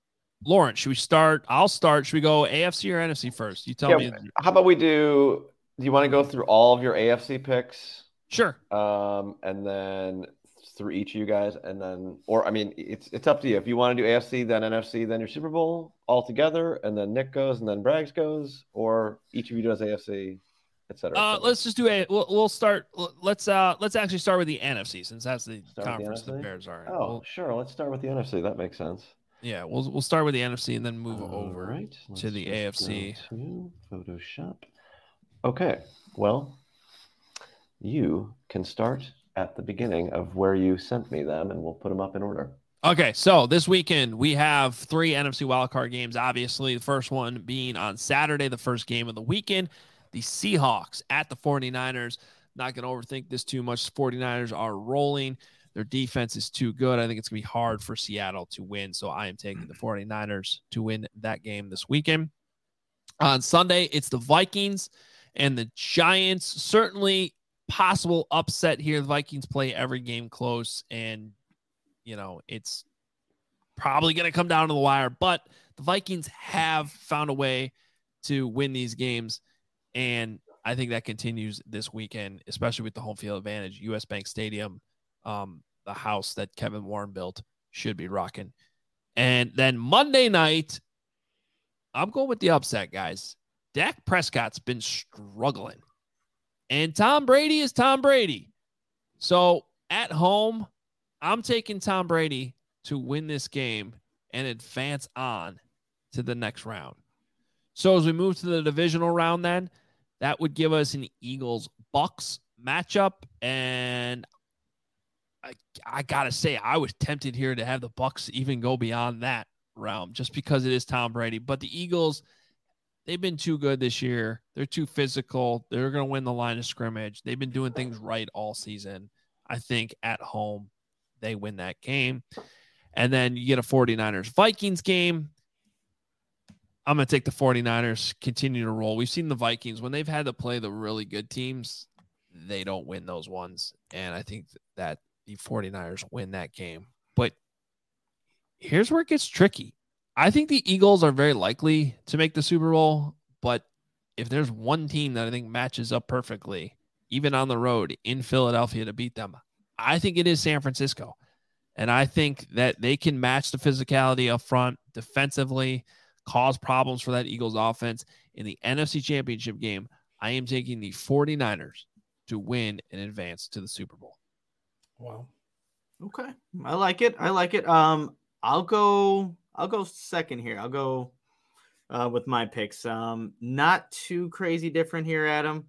Speaker 1: Lauren, should we start? I'll start. Should we go AFC or NFC first? You tell me.
Speaker 5: How about we do Do you want to go through all of your AFC picks?
Speaker 1: Sure.
Speaker 5: And then through each of you guys, and then, or I mean, it's up to you. If you want to do AFC, then NFC, then your Super Bowl all together, and then Nick goes, and then Braggs goes, or each of you does AFC, etc.
Speaker 1: Let's just do we'll start. Let's actually start with the NFC, since that's the conference the Bears are in.
Speaker 5: Oh, sure. Let's start with the NFC. That makes sense.
Speaker 1: Yeah, we'll start with the NFC and then move over to the AFC.
Speaker 5: To Photoshop. Okay. Well, you can start at the beginning of where you sent me them, and we'll put them up in order.
Speaker 1: Okay, so this weekend we have 3 NFC wildcard games. Obviously, the first one being on Saturday, the first game of the weekend. The Seahawks at the 49ers. Not going to overthink this too much. The 49ers are rolling. Their defense is too good. I think it's going to be hard for Seattle to win, so I am taking the 49ers to win that game this weekend. On Sunday, it's the Vikings and the Giants. Certainly possible upset here. The Vikings play every game close, and, it's probably going to come down to the wire, but the Vikings have found a way to win these games, and I think that continues this weekend, especially with the home field advantage. US Bank Stadium, the house that Kevin Warren built, should be rocking. And then Monday night, I'm going with the upset, guys. Dak Prescott's been struggling, and Tom Brady is Tom Brady. So at home, I'm taking Tom Brady to win this game and advance on to the next round. So as we move to the divisional round, then that would give us an Eagles-Bucks matchup, and I gotta say, I was tempted here to have the Bucks even go beyond that realm, just because it is Tom Brady. But the Eagles, they've been too good this year. They're too physical. They're going to win the line of scrimmage. They've been doing things right all season. I think at home, they win that game. And then you get a 49ers-Vikings game. I'm going to take the 49ers, continue to roll. We've seen the Vikings, when they've had to play the really good teams, they don't win those ones. And I think that the 49ers win that game. But here's where it gets tricky. I think the Eagles are very likely to make the Super Bowl, but if there's one team that I think matches up perfectly, even on the road in Philadelphia, to beat them, I think it is San Francisco. And I think that they can match the physicality up front defensively, cause problems for that Eagles offense. In the NFC Championship game, I am taking the 49ers to win and advance to the Super Bowl.
Speaker 3: Wow.
Speaker 2: Okay. I like it. I'll go second here. I'll go with my picks. Not too crazy different here, Adam.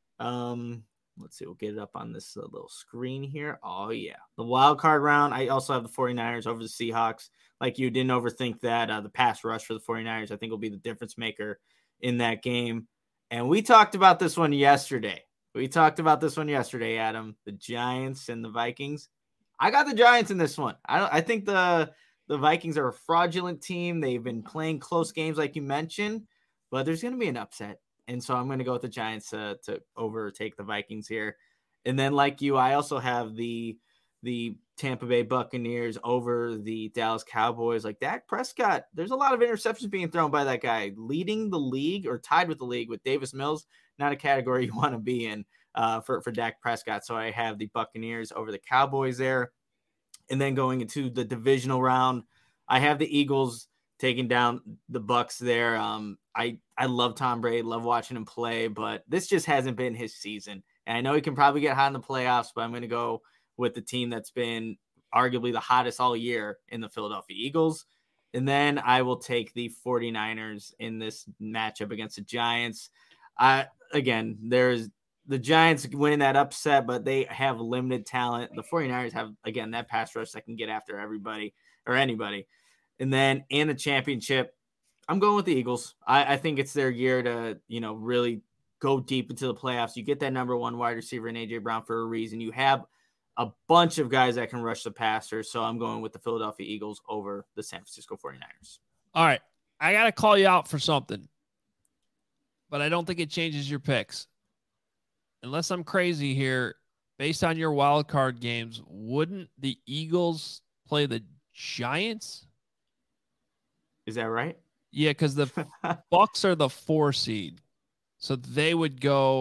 Speaker 2: Let's see. We'll get it up on this little screen here. Oh, yeah. The wild card round. I also have the 49ers over the Seahawks. Like you, didn't overthink that. The pass rush for the 49ers, I think, will be the difference maker in that game. And we talked about this one yesterday. Adam. The Giants and the Vikings. I got the Giants in this one. I think the Vikings are a fraudulent team. They've been playing close games like you mentioned, but there's going to be an upset. And so I'm going to go with the Giants to overtake the Vikings here. And then like you, I also have the Tampa Bay Buccaneers over the Dallas Cowboys. Like Dak Prescott, there's a lot of interceptions being thrown by that guy, leading the league or tied with the league with Davis Mills. Not a category you want to be in for Dak Prescott. So I have the Buccaneers over the Cowboys there. And then going into the divisional round, I have the Eagles taking down the Bucks there. I love Tom Brady, love watching him play, but this just hasn't been his season. And I know he can probably get hot in the playoffs, but I'm going to go with the team that's been arguably the hottest all year in the Philadelphia Eagles. And then I will take the 49ers in this matchup against the Giants. Again, there's the Giants winning that upset, but they have limited talent. The 49ers have, again, that pass rush that can get after everybody or anybody. And then in the championship, I'm going with the Eagles. I think it's their year to, really go deep into the playoffs. You get that number one wide receiver in A.J. Brown for a reason. You have a bunch of guys that can rush the passer. So I'm going with the Philadelphia Eagles over the San Francisco 49ers.
Speaker 1: All right. I got to call you out for something, but I don't think it changes your picks. Unless I'm crazy here, based on your wild card games, wouldn't the Eagles play the Giants?
Speaker 2: Is that right?
Speaker 1: Yeah, because the Bucks are the 4 seed. So they would go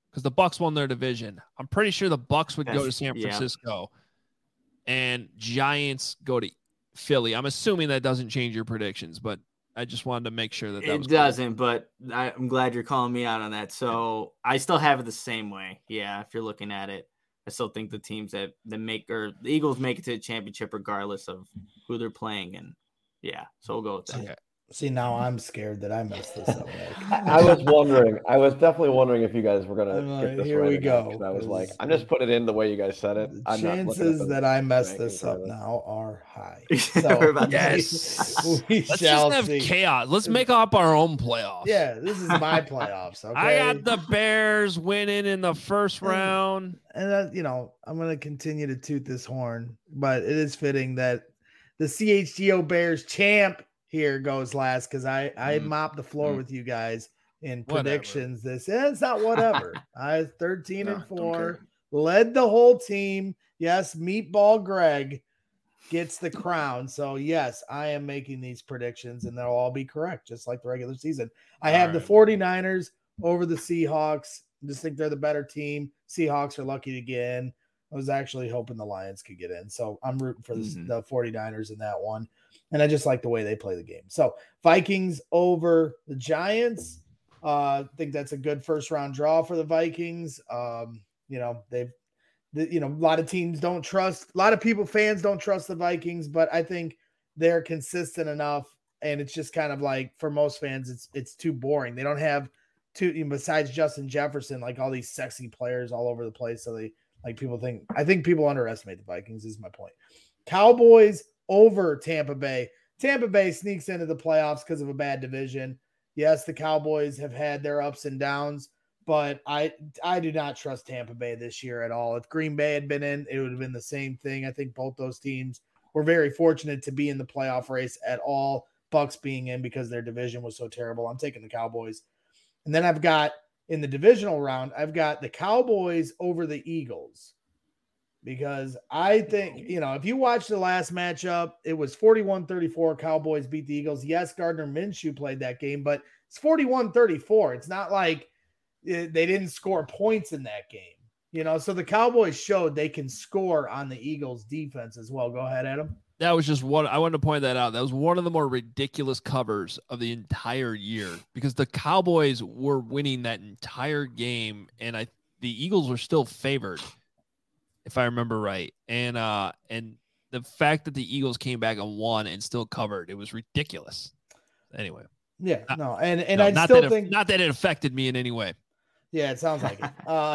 Speaker 1: because the Bucs won their division. I'm pretty sure the Bucs would go to San Francisco, and Giants go to Philly. I'm assuming that doesn't change your predictions, but I just wanted to make sure that
Speaker 2: it doesn't. But I'm glad you're calling me out on that. So I still have it the same way. Yeah, if you're looking at it, I still think the teams that the Eagles make it to the championship regardless of who they're playing, and so we'll go with that.
Speaker 3: Okay. See, now I'm scared that I messed this up.
Speaker 5: I was definitely wondering if you guys were going to get this
Speaker 3: here
Speaker 5: right.
Speaker 3: We go.
Speaker 5: I was like, I'm just putting it in the way you guys said it.
Speaker 3: The chances that I mess this up now are high. So,
Speaker 1: yes. Let's just have chaos. Let's make up our own playoffs.
Speaker 3: Yeah, this is my playoffs. Okay?
Speaker 1: I got the Bears winning in the first round.
Speaker 3: And, I'm going to continue to toot this horn, but it is fitting that the CHGO Bears champ here goes last because I mopped the floor with you guys in predictions. It's not whatever. I was 13-4, led the whole team. Yes, Meatball Greg gets the crown. So yes, I am making these predictions and they'll all be correct, just like the regular season. I have the 49ers over the Seahawks. I just think they're the better team. Seahawks are lucky to get in. I was actually hoping the Lions could get in. So I'm rooting for the 49ers in that one. And I just like the way they play the game. So Vikings over the Giants. I think that's a good first round draw for the Vikings. A lot of teams don't trust, a lot of fans don't trust the Vikings, but I think they're consistent enough. And it's just kind of like, for most fans, it's too boring. They don't have besides Justin Jefferson, like all these sexy players all over the place. So I think people underestimate the Vikings is my point. Cowboys over Tampa Bay. Tampa Bay sneaks into the playoffs because of a bad division. Yes, the Cowboys have had their ups and downs, but I do not trust Tampa Bay this year at all. If Green Bay had been in, it would have been the same thing. I think both those teams were very fortunate to be in the playoff race at all. Bucs being in because their division was so terrible. I'm taking the Cowboys. And then I've got in the divisional round, I've got the Cowboys over the Eagles. Because I think, if you watch the last matchup, it was 41-34. Cowboys beat the Eagles. Yes, Gardner Minshew played that game, but it's 41-34. It's not like they didn't score points in that game. So the Cowboys showed they can score on the Eagles defense as well. Go ahead, Adam.
Speaker 1: That was just one. I wanted to point that out. That was one of the more ridiculous covers of the entire year because the Cowboys were winning that entire game, and the Eagles were still favored, if I remember right. And the fact that the Eagles came back and won and still covered, it was ridiculous. Anyway.
Speaker 3: Yeah, I still think
Speaker 1: not that it affected me in any way.
Speaker 3: Yeah, it sounds like it.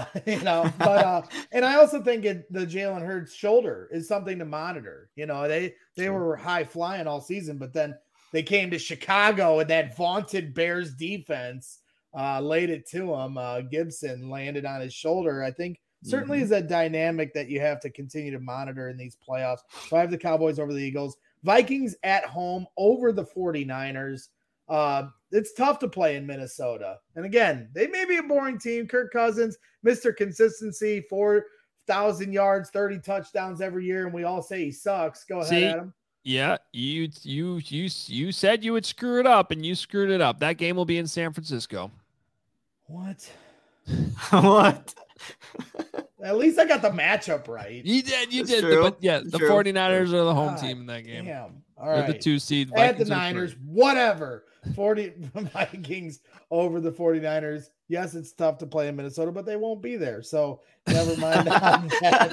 Speaker 3: And I also think the Jalen Hurts shoulder is something to monitor. They were high flying all season, but then they came to Chicago and that vaunted Bears defense laid it to him. Gibson landed on his shoulder. I think certainly is a dynamic that you have to continue to monitor in these playoffs. So I have the Cowboys over the Eagles. Vikings at home over the 49ers. It's tough to play in Minnesota. And again, they may be a boring team. Kirk Cousins, Mr. Consistency, 4,000 yards, 30 touchdowns every year, and we all say he sucks. Go ahead, Adam.
Speaker 1: Yeah, you said you would screw it up, and you screwed it up. That game will be in San Francisco.
Speaker 3: What?
Speaker 2: What?
Speaker 3: At least I got the matchup right.
Speaker 1: You did. But yeah, the 49ers are the home team in that game.
Speaker 3: Damn. All right.
Speaker 1: They're the 2 seed.
Speaker 3: At the Niners, whatever. 40 Vikings over the 49ers. Yes, it's tough to play in Minnesota, but they won't be there. So never mind on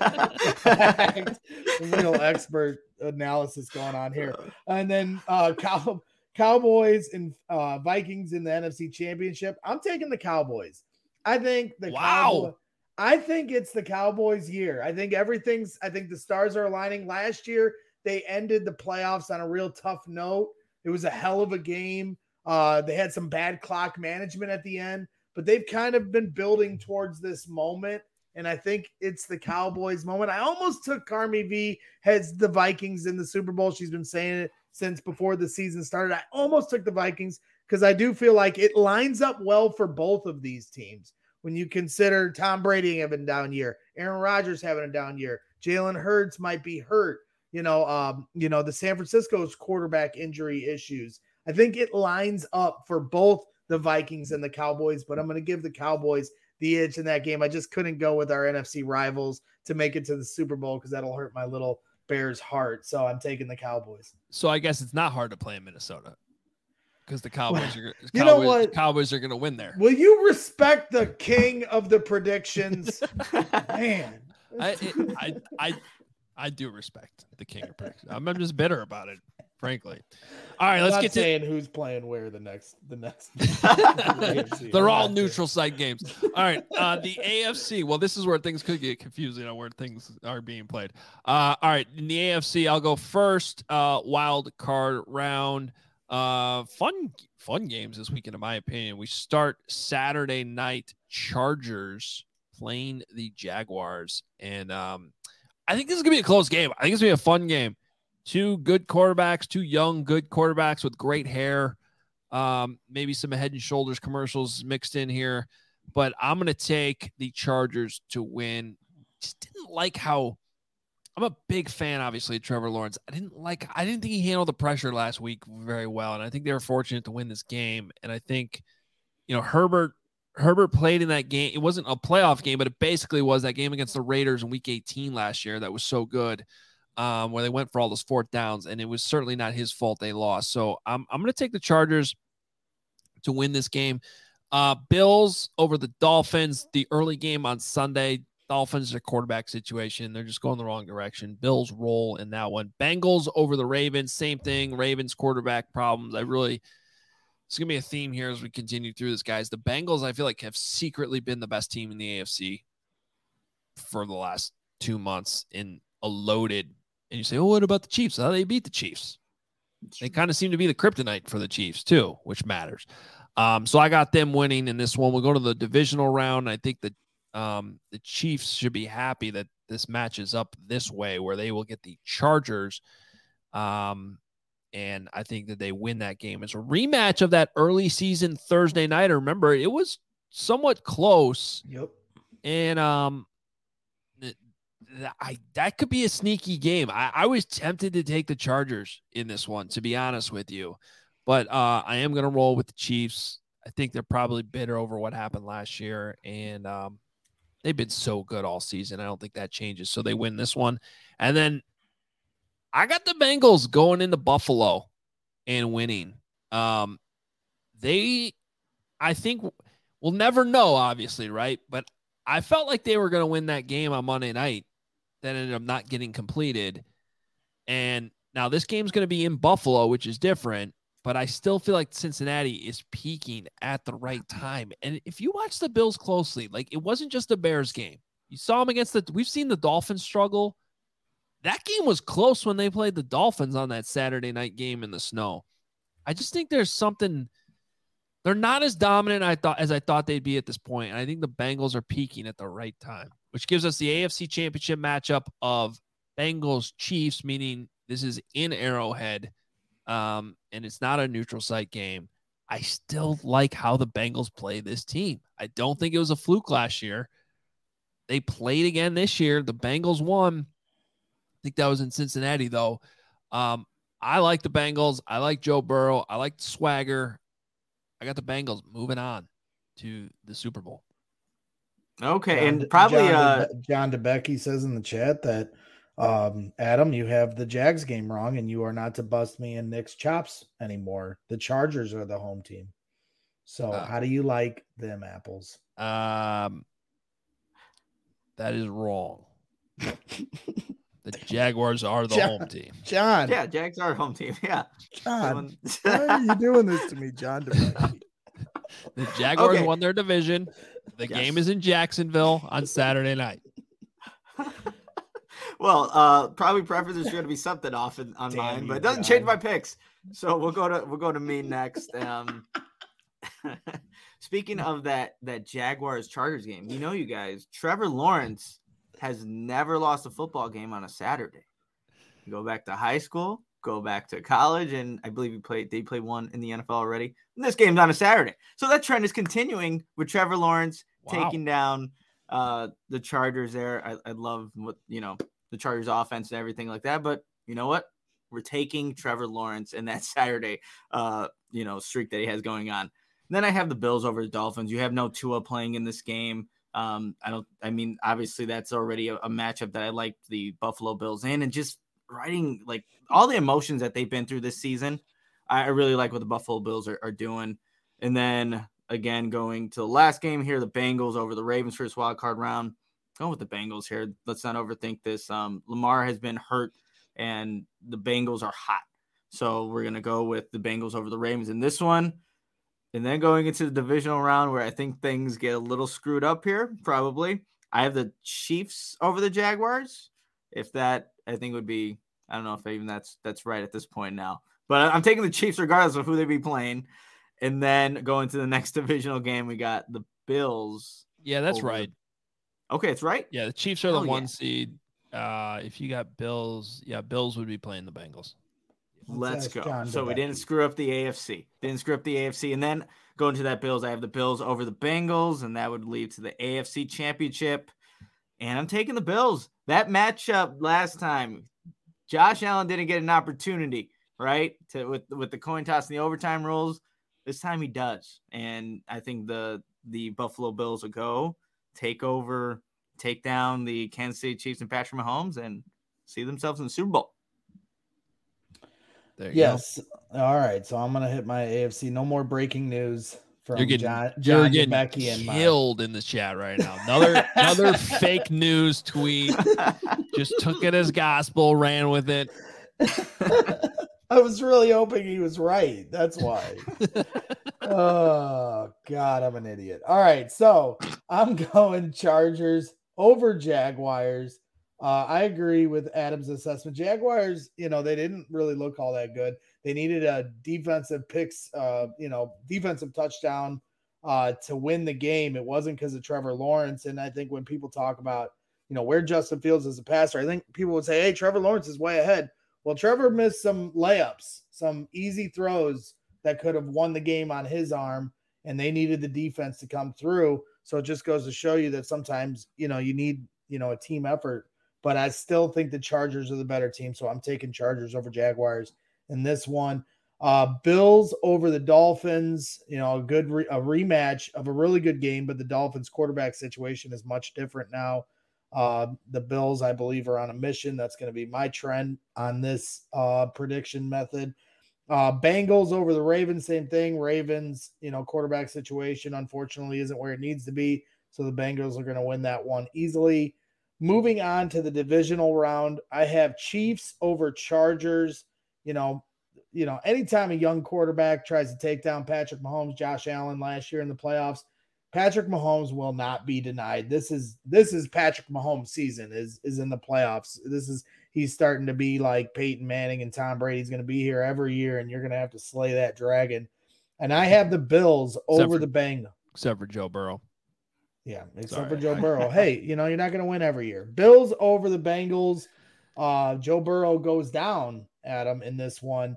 Speaker 3: that. Real expert analysis going on here. And then Cowboys and Vikings in the NFC Championship. I'm taking the Cowboys. I think I think it's the Cowboys' year. I think the stars are aligning. Last year, they ended the playoffs on a real tough note. It was a hell of a game. They had some bad clock management at the end, but they've kind of been building towards this moment. And I think it's the Cowboys' moment. I almost took Carmi V heads the Vikings in the Super Bowl. She's been saying it since before the season started. I almost took the Vikings because I do feel like it lines up well for both of these teams. When you consider Tom Brady having a down year, Aaron Rodgers having a down year, Jalen Hurts might be hurt, the San Francisco's quarterback injury issues. I think it lines up for both the Vikings and the Cowboys, but I'm going to give the Cowboys the itch in that game. I just couldn't go with our NFC rivals to make it to the Super Bowl because that'll hurt my little Bears heart. So I'm taking the Cowboys.
Speaker 1: So I guess it's not hard to play in Minnesota because the Cowboys are going to win there.
Speaker 3: Will you respect the king of the predictions? Man,
Speaker 1: I do respect the king of predictions. I'm just bitter about it, frankly. All right, let's get
Speaker 3: saying who's playing where the next.
Speaker 1: They're all neutral site games. All right, the AFC. Well, this is where things could get confusing on where things are being played. All right, in the AFC, I'll go first. Wild card round. Fun games this weekend, in my opinion. We start Saturday night. Chargers playing the Jaguars, and I think this is gonna be a close game. I think it's gonna be a fun game. Two good quarterbacks, two young, good quarterbacks with great hair. Maybe some Head and Shoulders commercials mixed in here, but I'm going to take the Chargers to win. Just didn't like how I'm a big fan, obviously, of Trevor Lawrence. I didn't think he handled the pressure last week very well. And I think they were fortunate to win this game. And I think, Herbert played in that game. It wasn't a playoff game, but it basically was that game against the Raiders in week 18 last year. That was so good. Where they went for all those fourth downs, and it was certainly not his fault they lost. So I'm going to take the Chargers to win this game. Bills over the Dolphins, the early game on Sunday. Dolphins, their quarterback situation. They're just going the wrong direction. Bills roll in that one. Bengals over the Ravens, same thing. Ravens quarterback problems. It's going to be a theme here as we continue through this, guys. The Bengals, I feel like, have secretly been the best team in the AFC for the last 2 months in a loaded. And you say, oh, what about the Chiefs? How they beat the Chiefs? They kind of seem to be the kryptonite for the Chiefs too, which matters. So I got them winning in this one. We'll go to the divisional round. I think that the Chiefs should be happy that this matches up this way, where they will get the Chargers. And I think that they win that game. It's a rematch of that early season Thursday night. Remember, it was somewhat close.
Speaker 3: Yep.
Speaker 1: And that could be a sneaky game. I was tempted to take the Chargers in this one, to be honest with you, but I am going to roll with the Chiefs. I think they're probably bitter over what happened last year, and they've been so good all season. I don't think that changes. So they win this one. And then I got the Bengals going into Buffalo and winning. I think we'll never know, obviously, right? But I felt like they were going to win that game on Monday night. That ended up not getting completed. And now this game's going to be in Buffalo, which is different, but I still feel like Cincinnati is peaking at the right time. And if you watch the Bills closely, like, it wasn't just a Bears game. You saw them we've seen the Dolphins struggle. That game was close when they played the Dolphins on that Saturday night game in the snow. I just think there's something, they're not as dominant as I thought they'd be at this point. And I think the Bengals are peaking at the right time, which gives us the AFC Championship matchup of Bengals Chiefs, meaning this is in Arrowhead, and it's not a neutral site game. I still like how the Bengals play this team. I don't think it was a fluke last year. They played again this year. The Bengals won. I think that was in Cincinnati, though. I like the Bengals. I like Joe Burrow. I like the swagger. I got the Bengals moving on to the Super Bowl.
Speaker 2: Okay, and probably
Speaker 3: John DeBecky says in the chat that Adam, you have the Jags game wrong, and you are not to bust me and Nick's chops anymore. The Chargers are the home team. So how do you like them apples?
Speaker 1: That is wrong. The Jaguars are the home team.
Speaker 3: John.
Speaker 2: Yeah, Jags are home team. Yeah.
Speaker 3: John, why are you doing this to me, John DeBecky?
Speaker 1: The Jaguars won their division. The game is in Jacksonville on Saturday night.
Speaker 2: Well, probably preferences are going to be something off on mine, but it doesn't change my picks. So we'll go to me next. Speaking of that Jaguars Chargers game, you guys, Trevor Lawrence has never lost a football game on a Saturday. You go back to high school, go back to college, and I believe they played one in the NFL already. And this game's on a Saturday. So that trend is continuing with Trevor Lawrence taking down the Chargers there. I love what, the Chargers offense and everything like that. But you know what? We're taking Trevor Lawrence in that Saturday, streak that he has going on. Then I have the Bills over the Dolphins. You have no Tua playing in this game. Obviously that's already a matchup that I like the Buffalo Bills in, and just writing like all the emotions that they've been through this season. I really like what the Buffalo Bills are doing. And then again, going to the last game here, the Bengals over the Ravens for this wild card round. Going with the Bengals here. Let's not overthink this. Lamar has been hurt and the Bengals are hot. So we're going to go with the Bengals over the Ravens in this one. And then going into the divisional round where I think things get a little screwed up here, probably. I have the Chiefs over the Jaguars. If that, I think would be, I don't know if even that's right at this point now. But I'm taking the Chiefs regardless of who they be playing. And then going to the next divisional game, we got the Bills.
Speaker 1: Yeah, that's right.
Speaker 2: Okay, it's right.
Speaker 1: Yeah, the Chiefs are the 1 seed. If you got Bills, Bills would be playing the Bengals.
Speaker 2: Let's go. So we didn't screw up the AFC. And then going to that Bills, I have the Bills over the Bengals, and that would lead to the AFC Championship. And I'm taking the Bills. That matchup last time, Josh Allen didn't get an opportunity, right? With the coin toss and the overtime rules. This time he does. And I think the Buffalo Bills will go take down the Kansas City Chiefs and Patrick Mahomes and see themselves in the Super Bowl.
Speaker 3: Yes. All right. So I'm going to hit my AFC. No more breaking news from
Speaker 1: you're getting Becky and killed in the chat right now. Another fake news tweet. Just took it as gospel, ran with it.
Speaker 3: I was really hoping he was right. That's why. Oh, God, I'm an idiot. All right. So I'm going Chargers over Jaguars. I agree with Adam's assessment. Jaguars, they didn't really look all that good. They needed a defensive defensive touchdown to win the game. It wasn't because of Trevor Lawrence. And I think when people talk about, where Justin Fields is a passer, I think people would say, hey, Trevor Lawrence is way ahead. Well, Trevor missed some layups, some easy throws that could have won the game on his arm, and they needed the defense to come through. So it just goes to show you that sometimes, you need, a team effort. But I still think the Chargers are the better team, so I'm taking Chargers over Jaguars in this one. Bills over the Dolphins, a rematch of a really good game, but the Dolphins quarterback situation is much different now. The Bills, I believe, are on a mission. That's going to be my trend on this prediction method. Bengals over the Ravens, same thing. Ravens, quarterback situation, unfortunately, isn't where it needs to be. So the Bengals are going to win that one easily. Moving on to the divisional round, I have Chiefs over Chargers. Anytime a young quarterback tries to take down Patrick Mahomes, Josh Allen last year in the playoffs, Patrick Mahomes will not be denied. This is Patrick Mahomes' season is in the playoffs. He's starting to be like Peyton Manning and Tom Brady's going to be here every year, and you're going to have to slay that dragon. And I have the Bills over the Bengals.
Speaker 1: Except for Joe Burrow.
Speaker 3: Yeah, except for Joe Burrow. Hey, you're not going to win every year. Bills over the Bengals. Joe Burrow goes down, Adam, in this one.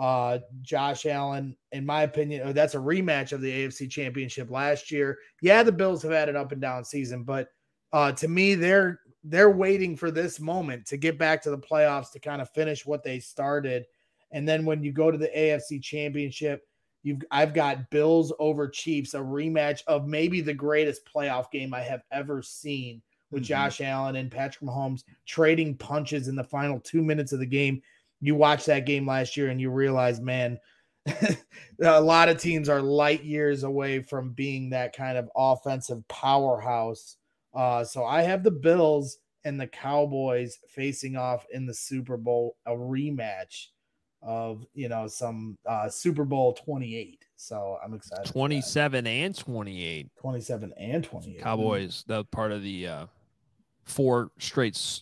Speaker 3: Josh Allen, in my opinion, that's a rematch of the AFC Championship last year. Yeah, the Bills have had an up and down season, but to me, they're waiting for this moment to get back to the playoffs to kind of finish what they started. And then when you go to the AFC Championship, I've got Bills over Chiefs, a rematch of maybe the greatest playoff game I have ever seen with Josh Allen and Patrick Mahomes trading punches in the final 2 minutes of the game. You watch that game last year and you realize, man, a lot of teams are light years away from being that kind of offensive powerhouse. So I have the Bills and the Cowboys facing off in the Super Bowl, a rematch of some Super Bowl 28. So I'm excited.
Speaker 1: 27 and 28.
Speaker 3: 27 and 28.
Speaker 1: Cowboys, that was part of the 4 straight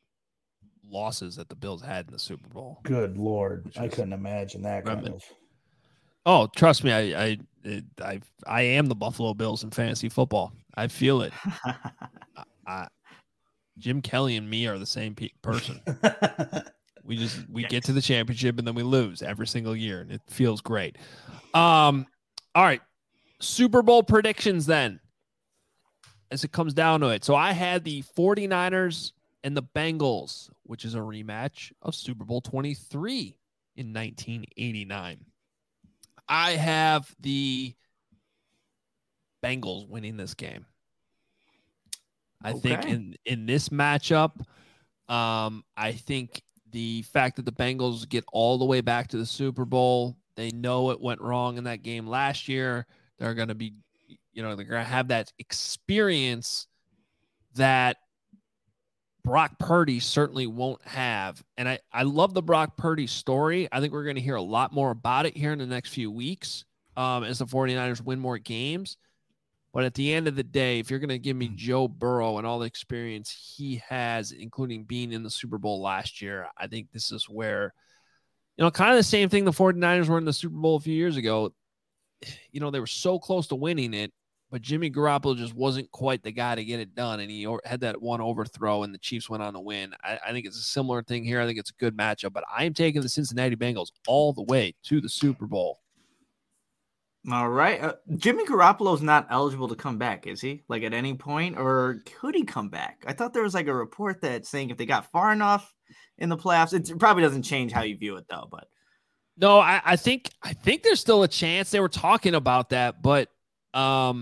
Speaker 1: losses that the Bills had in the Super Bowl.
Speaker 3: Good Lord. I couldn't imagine that kind of.
Speaker 1: Oh, trust me, I am the Buffalo Bills in fantasy football. I feel it. Jim Kelly and me are the same person. We get to the championship and then we lose every single year, and it feels great. All right, Super Bowl predictions then, as it comes down to it. So I had the 49ers and the Bengals, which is a rematch of Super Bowl 23 in 1989. I have the Bengals winning this game. I think in this matchup, I think the fact that the Bengals get all the way back to the Super Bowl, they know it went wrong in that game last year. They're going to be, they're going to have that experience that Brock Purdy certainly won't have. And I love the Brock Purdy story. I think we're going to hear a lot more about it here in the next few weeks as the 49ers win more games. But at the end of the day, if you're going to give me Joe Burrow and all the experience he has, including being in the Super Bowl last year, I think this is where, kind of the same thing the 49ers were in the Super Bowl a few years ago. They were so close to winning it, but Jimmy Garoppolo just wasn't quite the guy to get it done, and he had that one overthrow, and the Chiefs went on to win. I think it's a similar thing here. I think it's a good matchup, but I am taking the Cincinnati Bengals all the way to the Super Bowl.
Speaker 2: All right. Jimmy Garoppolo's not eligible to come back, is he? Like at any point, or could he come back? I thought there was like a report that saying if they got far enough in the playoffs, it probably doesn't change how you view it though. But
Speaker 1: no, I think there's still a chance. They were talking about that, but are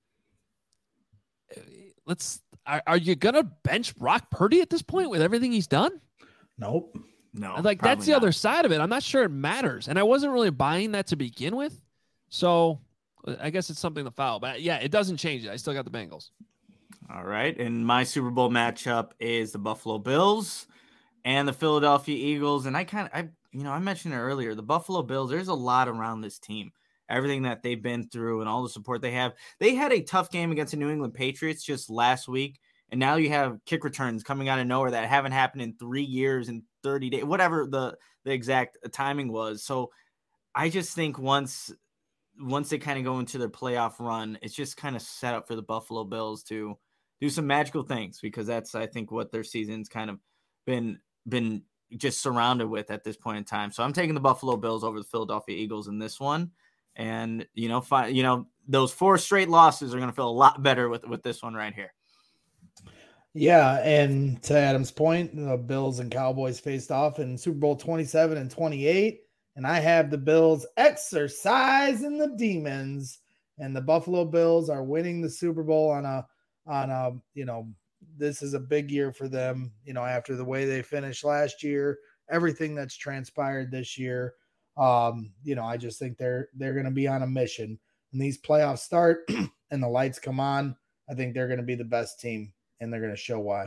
Speaker 1: you gonna bench Brock Purdy at this point with everything he's done?
Speaker 3: Nope.
Speaker 2: No.
Speaker 1: Like that's the other side of it. I'm not sure it matters, and I wasn't really buying that to begin with. So I guess it's something to follow. But yeah, it doesn't change it. I still got the Bengals.
Speaker 2: All right. And my Super Bowl matchup is the Buffalo Bills and the Philadelphia Eagles. And I mentioned it earlier, the Buffalo Bills, there's a lot around this team. Everything that they've been through and all the support they have. They had a tough game against the New England Patriots just last week. And now you have kick returns coming out of nowhere that haven't happened in 3 years and 30 days, whatever the exact timing was. So I just think once they kind of go into their playoff run, it's just kind of set up for the Buffalo Bills to do some magical things, because that's, I think, what their season's kind of been just surrounded with at this point in time. So I'm taking the Buffalo Bills over the Philadelphia Eagles in this one. And, those 4 straight losses are going to feel a lot better with this one right here.
Speaker 3: Yeah. And to Adam's point, the Bills and Cowboys faced off in Super Bowl 27 and 28. And I have the Bills exercising the demons, and the Buffalo Bills are winning the Super Bowl on a this is a big year for them, after the way they finished last year, everything that's transpired this year. I just think they're going to be on a mission. When these playoffs start and the lights come on, I think they're going to be the best team, and they're going to show why.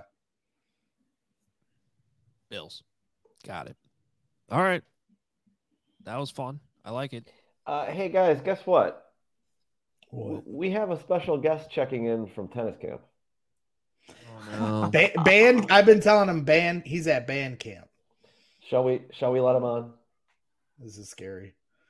Speaker 1: Bills. Got it. All right. That was fun. I like it.
Speaker 5: Hey, guys, guess what?
Speaker 3: What?
Speaker 5: We have a special guest checking in from tennis camp.
Speaker 1: Oh, no.
Speaker 3: Band. I've been telling him band. He's at band camp.
Speaker 5: Shall we let him on?
Speaker 3: This is scary.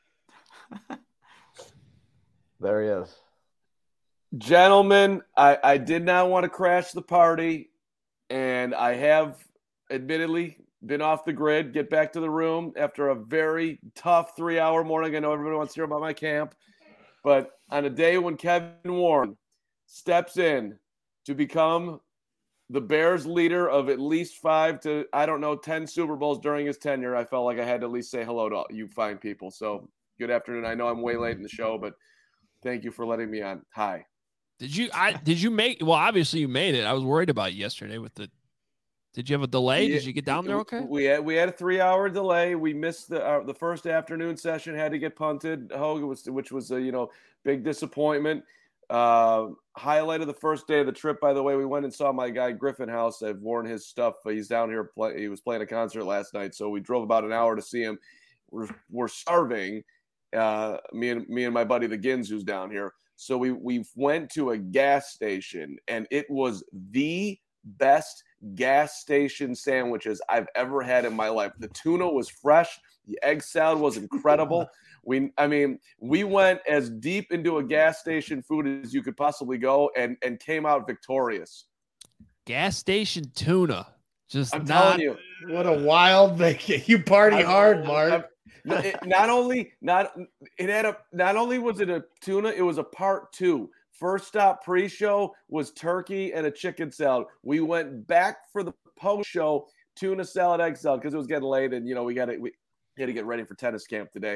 Speaker 5: There he is.
Speaker 6: Gentlemen, I did not want to crash the party, and I have admittedly been off the grid, get back to the room after a very tough 3-hour morning. I know everybody wants to hear about my camp, but on a day when Kevin Warren steps in to become the Bears leader of at least 5 to, 10 Super Bowls during his tenure, I felt like I had to at least say hello to you fine people. So good afternoon. I know I'm way late in the show, but thank you for letting me on. Hi.
Speaker 1: Did you make, well, obviously you made it. I was worried about yesterday with did you have a delay? Did you get down there okay?
Speaker 6: We had a 3-hour delay. We missed the first afternoon session, had to get punted, which was a big disappointment. Highlight of the first day of the trip, by the way, we went and saw my guy Griffin House. I've worn his stuff. He's down here. He was playing a concert last night, so we drove about an hour to see him. We're starving. Me and my buddy the Gins, who's down here. So we went to a gas station, and it was the best gas station sandwiches I've ever had in my life. The tuna was fresh. The egg salad was incredible. We went as deep into a gas station food as you could possibly go, and came out victorious.
Speaker 1: Gas station tuna.
Speaker 6: Telling you,
Speaker 3: what a wild vacation. You party hard, Mark.
Speaker 6: Not only was it a tuna, it was a part 2. First stop pre-show was turkey and a chicken salad. We went back for the post-show tuna salad, egg salad, because it was getting late, and we had to get ready for tennis camp today.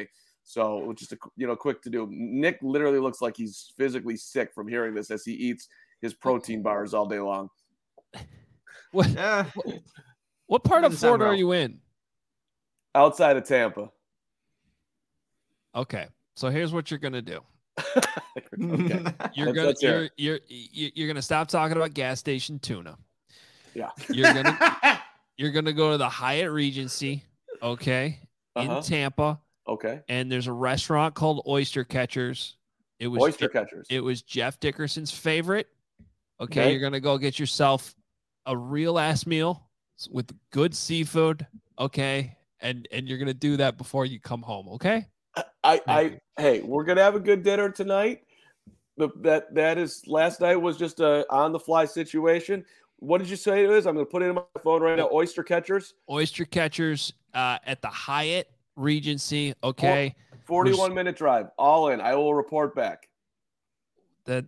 Speaker 6: So just a quick to do. Nick literally looks like he's physically sick from hearing this as he eats his protein bars all day long.
Speaker 1: What part of Florida are you in?
Speaker 6: Outside of Tampa.
Speaker 1: Okay, so here's what you're gonna do.
Speaker 6: Okay.
Speaker 1: You're gonna stop talking about gas station tuna.
Speaker 6: Yeah.
Speaker 1: You're gonna go to the Hyatt Regency, okay, in Tampa.
Speaker 6: Okay.
Speaker 1: And there's a restaurant called Oyster Catchers. It was Jeff Dickerson's favorite. Okay, you're gonna go get yourself a real ass meal with good seafood. Okay, and you're gonna do that before you come home. Okay.
Speaker 6: Hey, we're gonna have a good dinner tonight. That is last night was just a on the fly situation. What did you say it is? I'm gonna put it in my phone right now. Oyster Catchers.
Speaker 1: Oyster Catchers at the Hyatt Regency. Okay.
Speaker 6: 41-minute drive. All in. I will report back.
Speaker 1: That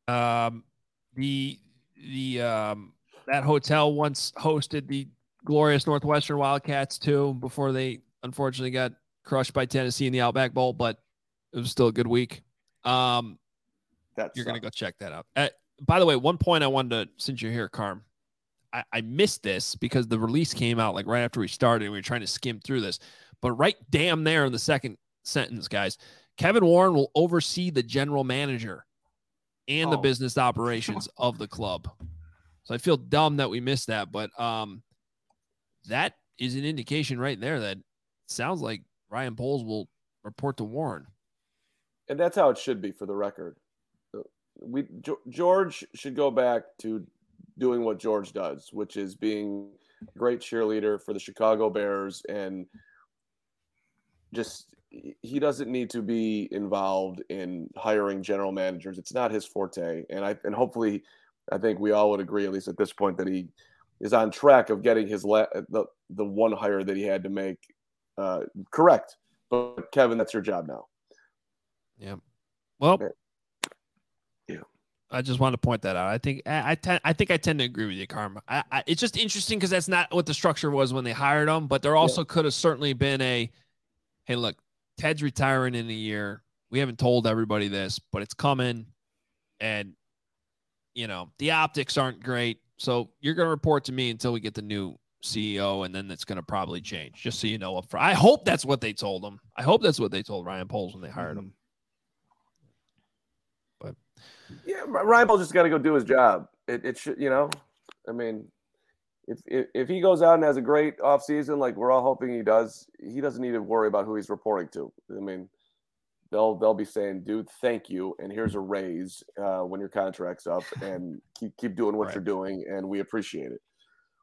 Speaker 1: that hotel once hosted the glorious Northwestern Wildcats too, before they unfortunately got crushed by Tennessee in the Outback Bowl, but it was still a good week. You're going to go check that out. By the way, one point I wanted to, since you're here, Carm, I missed this because the release came out like right after we started and we were trying to skim through this, but right damn there in the second sentence, guys, Kevin Warren will oversee the general manager and the business operations of the club. So I feel dumb that we missed that, but that is an indication right there that sounds like Ryan Poles will report to Warren.
Speaker 6: And that's how it should be, for the record. George should go back to doing what George does, which is being a great cheerleader for the Chicago Bears, and just he doesn't need to be involved in hiring general managers. It's not his forte, and hopefully, I think we all would agree, at least at this point, that he is on track of getting his the one hire that he had to make correct. But Kevin, that's your job now.
Speaker 1: Yeah. Well.
Speaker 6: Okay.
Speaker 1: I just wanted to point that out. I think I tend to agree with you, Karma. It's just interesting because that's not what the structure was when they hired him. But there also could have certainly been hey, look, Ted's retiring in a year. We haven't told everybody this, but it's coming, and the optics aren't great. So you're going to report to me until we get the new CEO, and then it's going to probably change. Just so you know, up front. I hope that's what they told him. I hope that's what they told Ryan Poles when they hired him. But
Speaker 6: yeah, Ryan Poles just got to go do his job. It should, I mean, if he goes out and has a great offseason, like we're all hoping he does, he doesn't need to worry about who he's reporting to. I mean, they'll be saying, dude, thank you, and here's a raise when your contract's up, and keep doing what you're doing, and we appreciate it.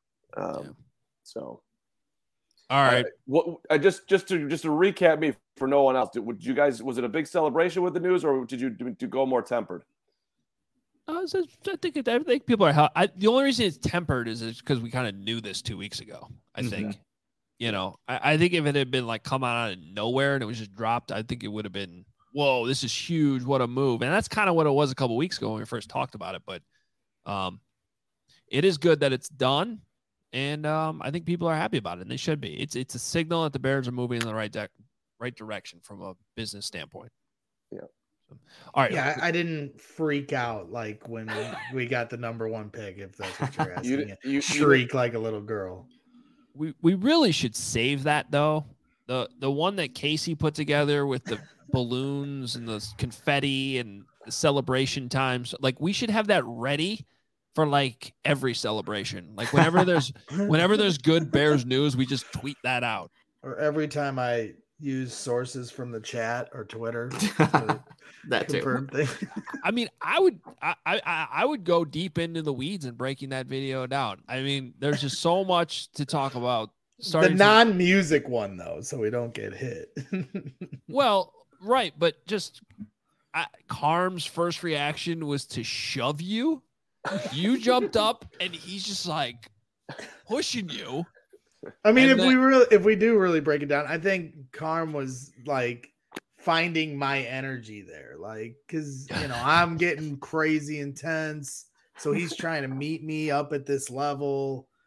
Speaker 6: So,
Speaker 1: all right.
Speaker 6: What I just to recap me for no one else. Was it a big celebration with the news, or did you go more tempered?
Speaker 1: I think people are. The only reason it's tempered is because we kind of knew this 2 weeks ago. I think, I think if it had been like come out of nowhere and it was just dropped, I think it would have been, whoa, this is huge. What a move. And that's kind of what it was a couple weeks ago when we first talked about it. But it is good that it's done. And I think people are happy about it, and they should be. It's a signal that the Bears are moving in the right direction from a business standpoint.
Speaker 6: Yeah.
Speaker 1: All right.
Speaker 3: Yeah, I didn't freak out like when we got the number one pick, if that's what you're asking. You shriek like a little girl.
Speaker 1: We really should save that though. The one that Casey put together with the balloons and the confetti and the celebration times, like we should have that ready for like every celebration. Like whenever there's good Bears news, we just tweet that out.
Speaker 3: Or every time I use sources from the chat or Twitter.
Speaker 2: That too.
Speaker 1: I mean, I would go deep into the weeds and breaking that video down. I mean, there's just so much to talk about.
Speaker 3: The non-music one though, so we don't get hit.
Speaker 1: Well, right, but just Carm's first reaction was to shove you. You jumped up and he's just like pushing you.
Speaker 3: I mean, if we do really break it down, I think Carm was like finding my energy there, like because I'm getting crazy intense, so he's trying to meet me up at this level,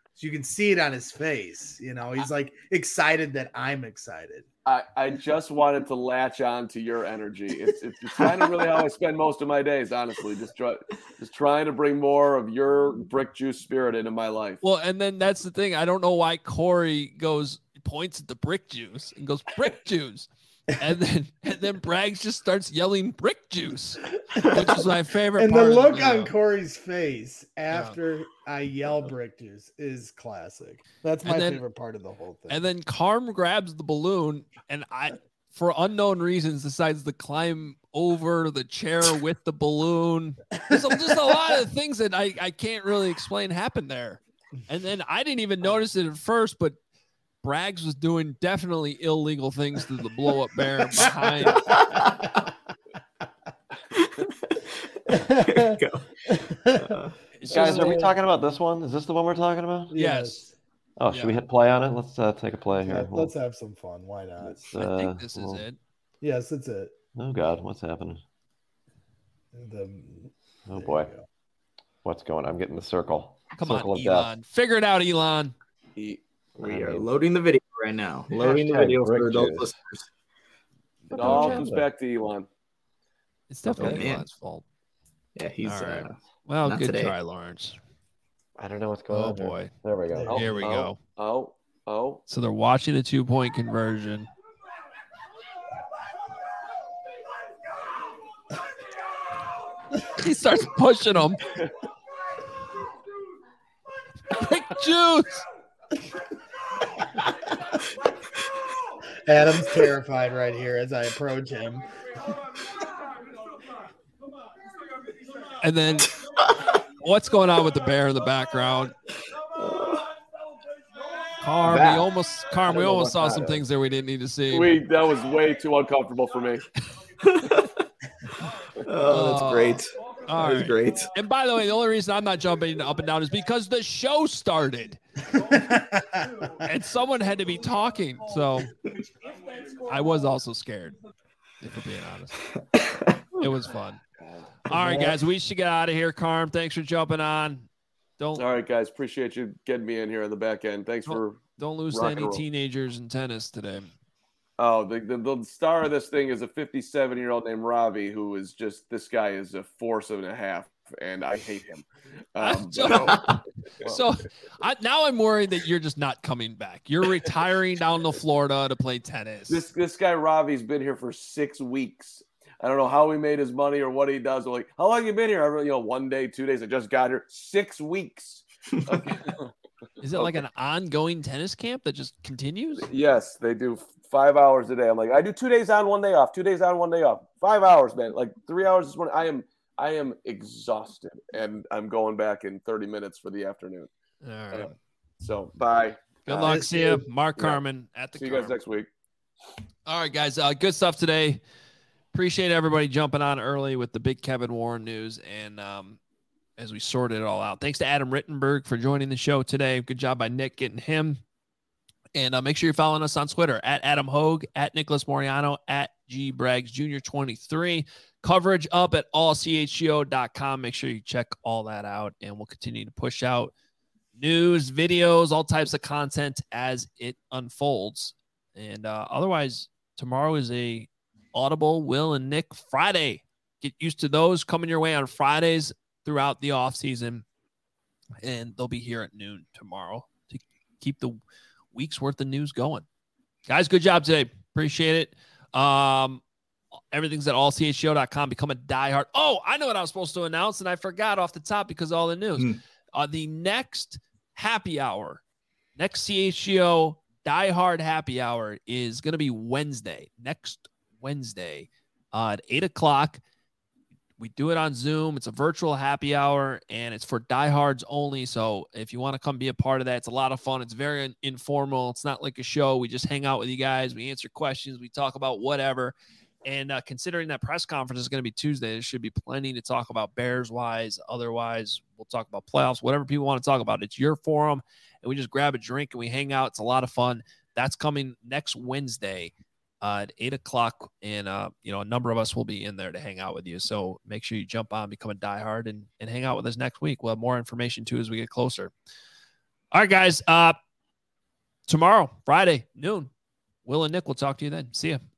Speaker 3: So you can see it on his face. You know, he's like excited that I'm excited.
Speaker 6: I just wanted to latch on to your energy. It's kind of really how I spend most of my days, honestly. Just trying to bring more of your brick juice spirit into my life.
Speaker 1: Well, and then that's the thing. I don't know why Corey points at the brick juice and goes brick juice. And then Braggs just starts yelling brick juice, which is my favorite
Speaker 3: and
Speaker 1: part.
Speaker 3: And the look on Corey's face after I yell brick juice is classic. That's my favorite part of the whole thing.
Speaker 1: And then Carm grabs the balloon and for unknown reasons, decides to climb over the chair with the balloon. There's just a lot of things that I can't really explain happened there. And then I didn't even notice it at first, but Braggs was doing definitely illegal things to the blow-up bear behind.
Speaker 5: Guys, are we talking about this one? Is this the one we're talking about?
Speaker 1: Yes.
Speaker 5: Oh, should we hit play on it? Let's take a play here.
Speaker 3: Let's have some fun. Why not?
Speaker 1: I think this is it.
Speaker 3: Yes, it's it.
Speaker 5: Oh, God. What's happening? Oh, boy. What's going on? I'm getting the circle.
Speaker 1: Come on, Elon. Figure it out, Elon.
Speaker 2: We are loading the video right now. Loading the video for those listeners.
Speaker 6: It all comes back to Elon.
Speaker 1: It's definitely Elon's fault.
Speaker 2: Yeah, he's
Speaker 1: right. Well, good
Speaker 2: today.
Speaker 1: Try, Lawrence.
Speaker 5: I don't know what's going on.
Speaker 1: Oh boy.
Speaker 5: There we go.
Speaker 1: Here we go.
Speaker 6: Oh.
Speaker 1: So they're watching the 2-point conversion. He starts pushing them. Big juice.
Speaker 3: Adam's terrified right here as I approach him.
Speaker 1: And then what's going on with the bear in the background? Carm, we almost saw some things there we didn't need to see.
Speaker 6: That was way too uncomfortable for me.
Speaker 2: Oh, that's great. That was great.
Speaker 1: And by the way, the only reason I'm not jumping up and down is because the show started. And someone had to be talking. So I was also scared, if we're being honest. It was fun. All right, guys, we should get out of here. Carm, thanks for jumping on.
Speaker 6: All right, guys, appreciate you getting me in here on the back end. Thanks for
Speaker 1: don't lose to any teenagers in tennis today.
Speaker 6: Oh, the star of this thing is a 57-year-old named Ravi, who is just, this guy is a force and a half, and I hate him.
Speaker 1: Now I'm worried that you're just not coming back. You're retiring down to Florida to play tennis.
Speaker 6: This guy Ravi's been here for 6 weeks. I don't know how he made his money or what he does. They're like, how long have you been here? 1 day, 2 days. I just got here. 6 weeks. Okay.
Speaker 1: Is it like an ongoing tennis camp that just continues?
Speaker 6: Yes, they do 5 hours a day. I'm like, I do 2 days on, 1 day off. 2 days on, 1 day off. 5 hours, man. Like 3 hours this morning. I am exhausted, and I'm going back in 30 minutes for the afternoon.
Speaker 1: All right.
Speaker 6: So bye.
Speaker 1: Good luck. See you, Mark Carman at the.
Speaker 6: See you guys next week.
Speaker 1: All right, guys. Good stuff today. Appreciate everybody jumping on early with the big Kevin Warren news, and as we sorted it all out. Thanks to Adam Rittenberg for joining the show today. Good job by Nick getting him. And make sure you're following us on Twitter at Adam Hogue, at Nicholas Moriano, at G Braggs Jr. 23. Coverage up at allchgo.com. Make sure you check all that out, and we'll continue to push out news, videos, all types of content as it unfolds. And otherwise, tomorrow is a Audible Will and Nick Friday. Get used to those coming your way on Fridays throughout the off season, and they'll be here at noon tomorrow to keep the week's worth of news going. Guys, good job today. Appreciate it. Everything's at allchgo.com. Become a diehard. Oh, I know what I was supposed to announce, and I forgot off the top because of all the news. The next happy hour, next CHGO diehard happy hour is going to be next Wednesday at 8 o'clock. We do it on Zoom. It's a virtual happy hour, and it's for diehards only. So if you want to come be a part of that, it's a lot of fun. It's very informal. It's not like a show. We just hang out with you guys. We answer questions. We talk about whatever. And considering that press conference is going to be Tuesday, there should be plenty to talk about Bears-wise. Otherwise, we'll talk about playoffs, whatever people want to talk about. It's your forum, and we just grab a drink and we hang out. It's a lot of fun. That's coming next Wednesday at 8 o'clock. And, a number of us will be in there to hang out with you. So make sure you jump on, become a diehard, and hang out with us next week. We'll have more information, too, as we get closer. All right, guys. Tomorrow, Friday, noon, Will and Nick will talk to you then. See ya.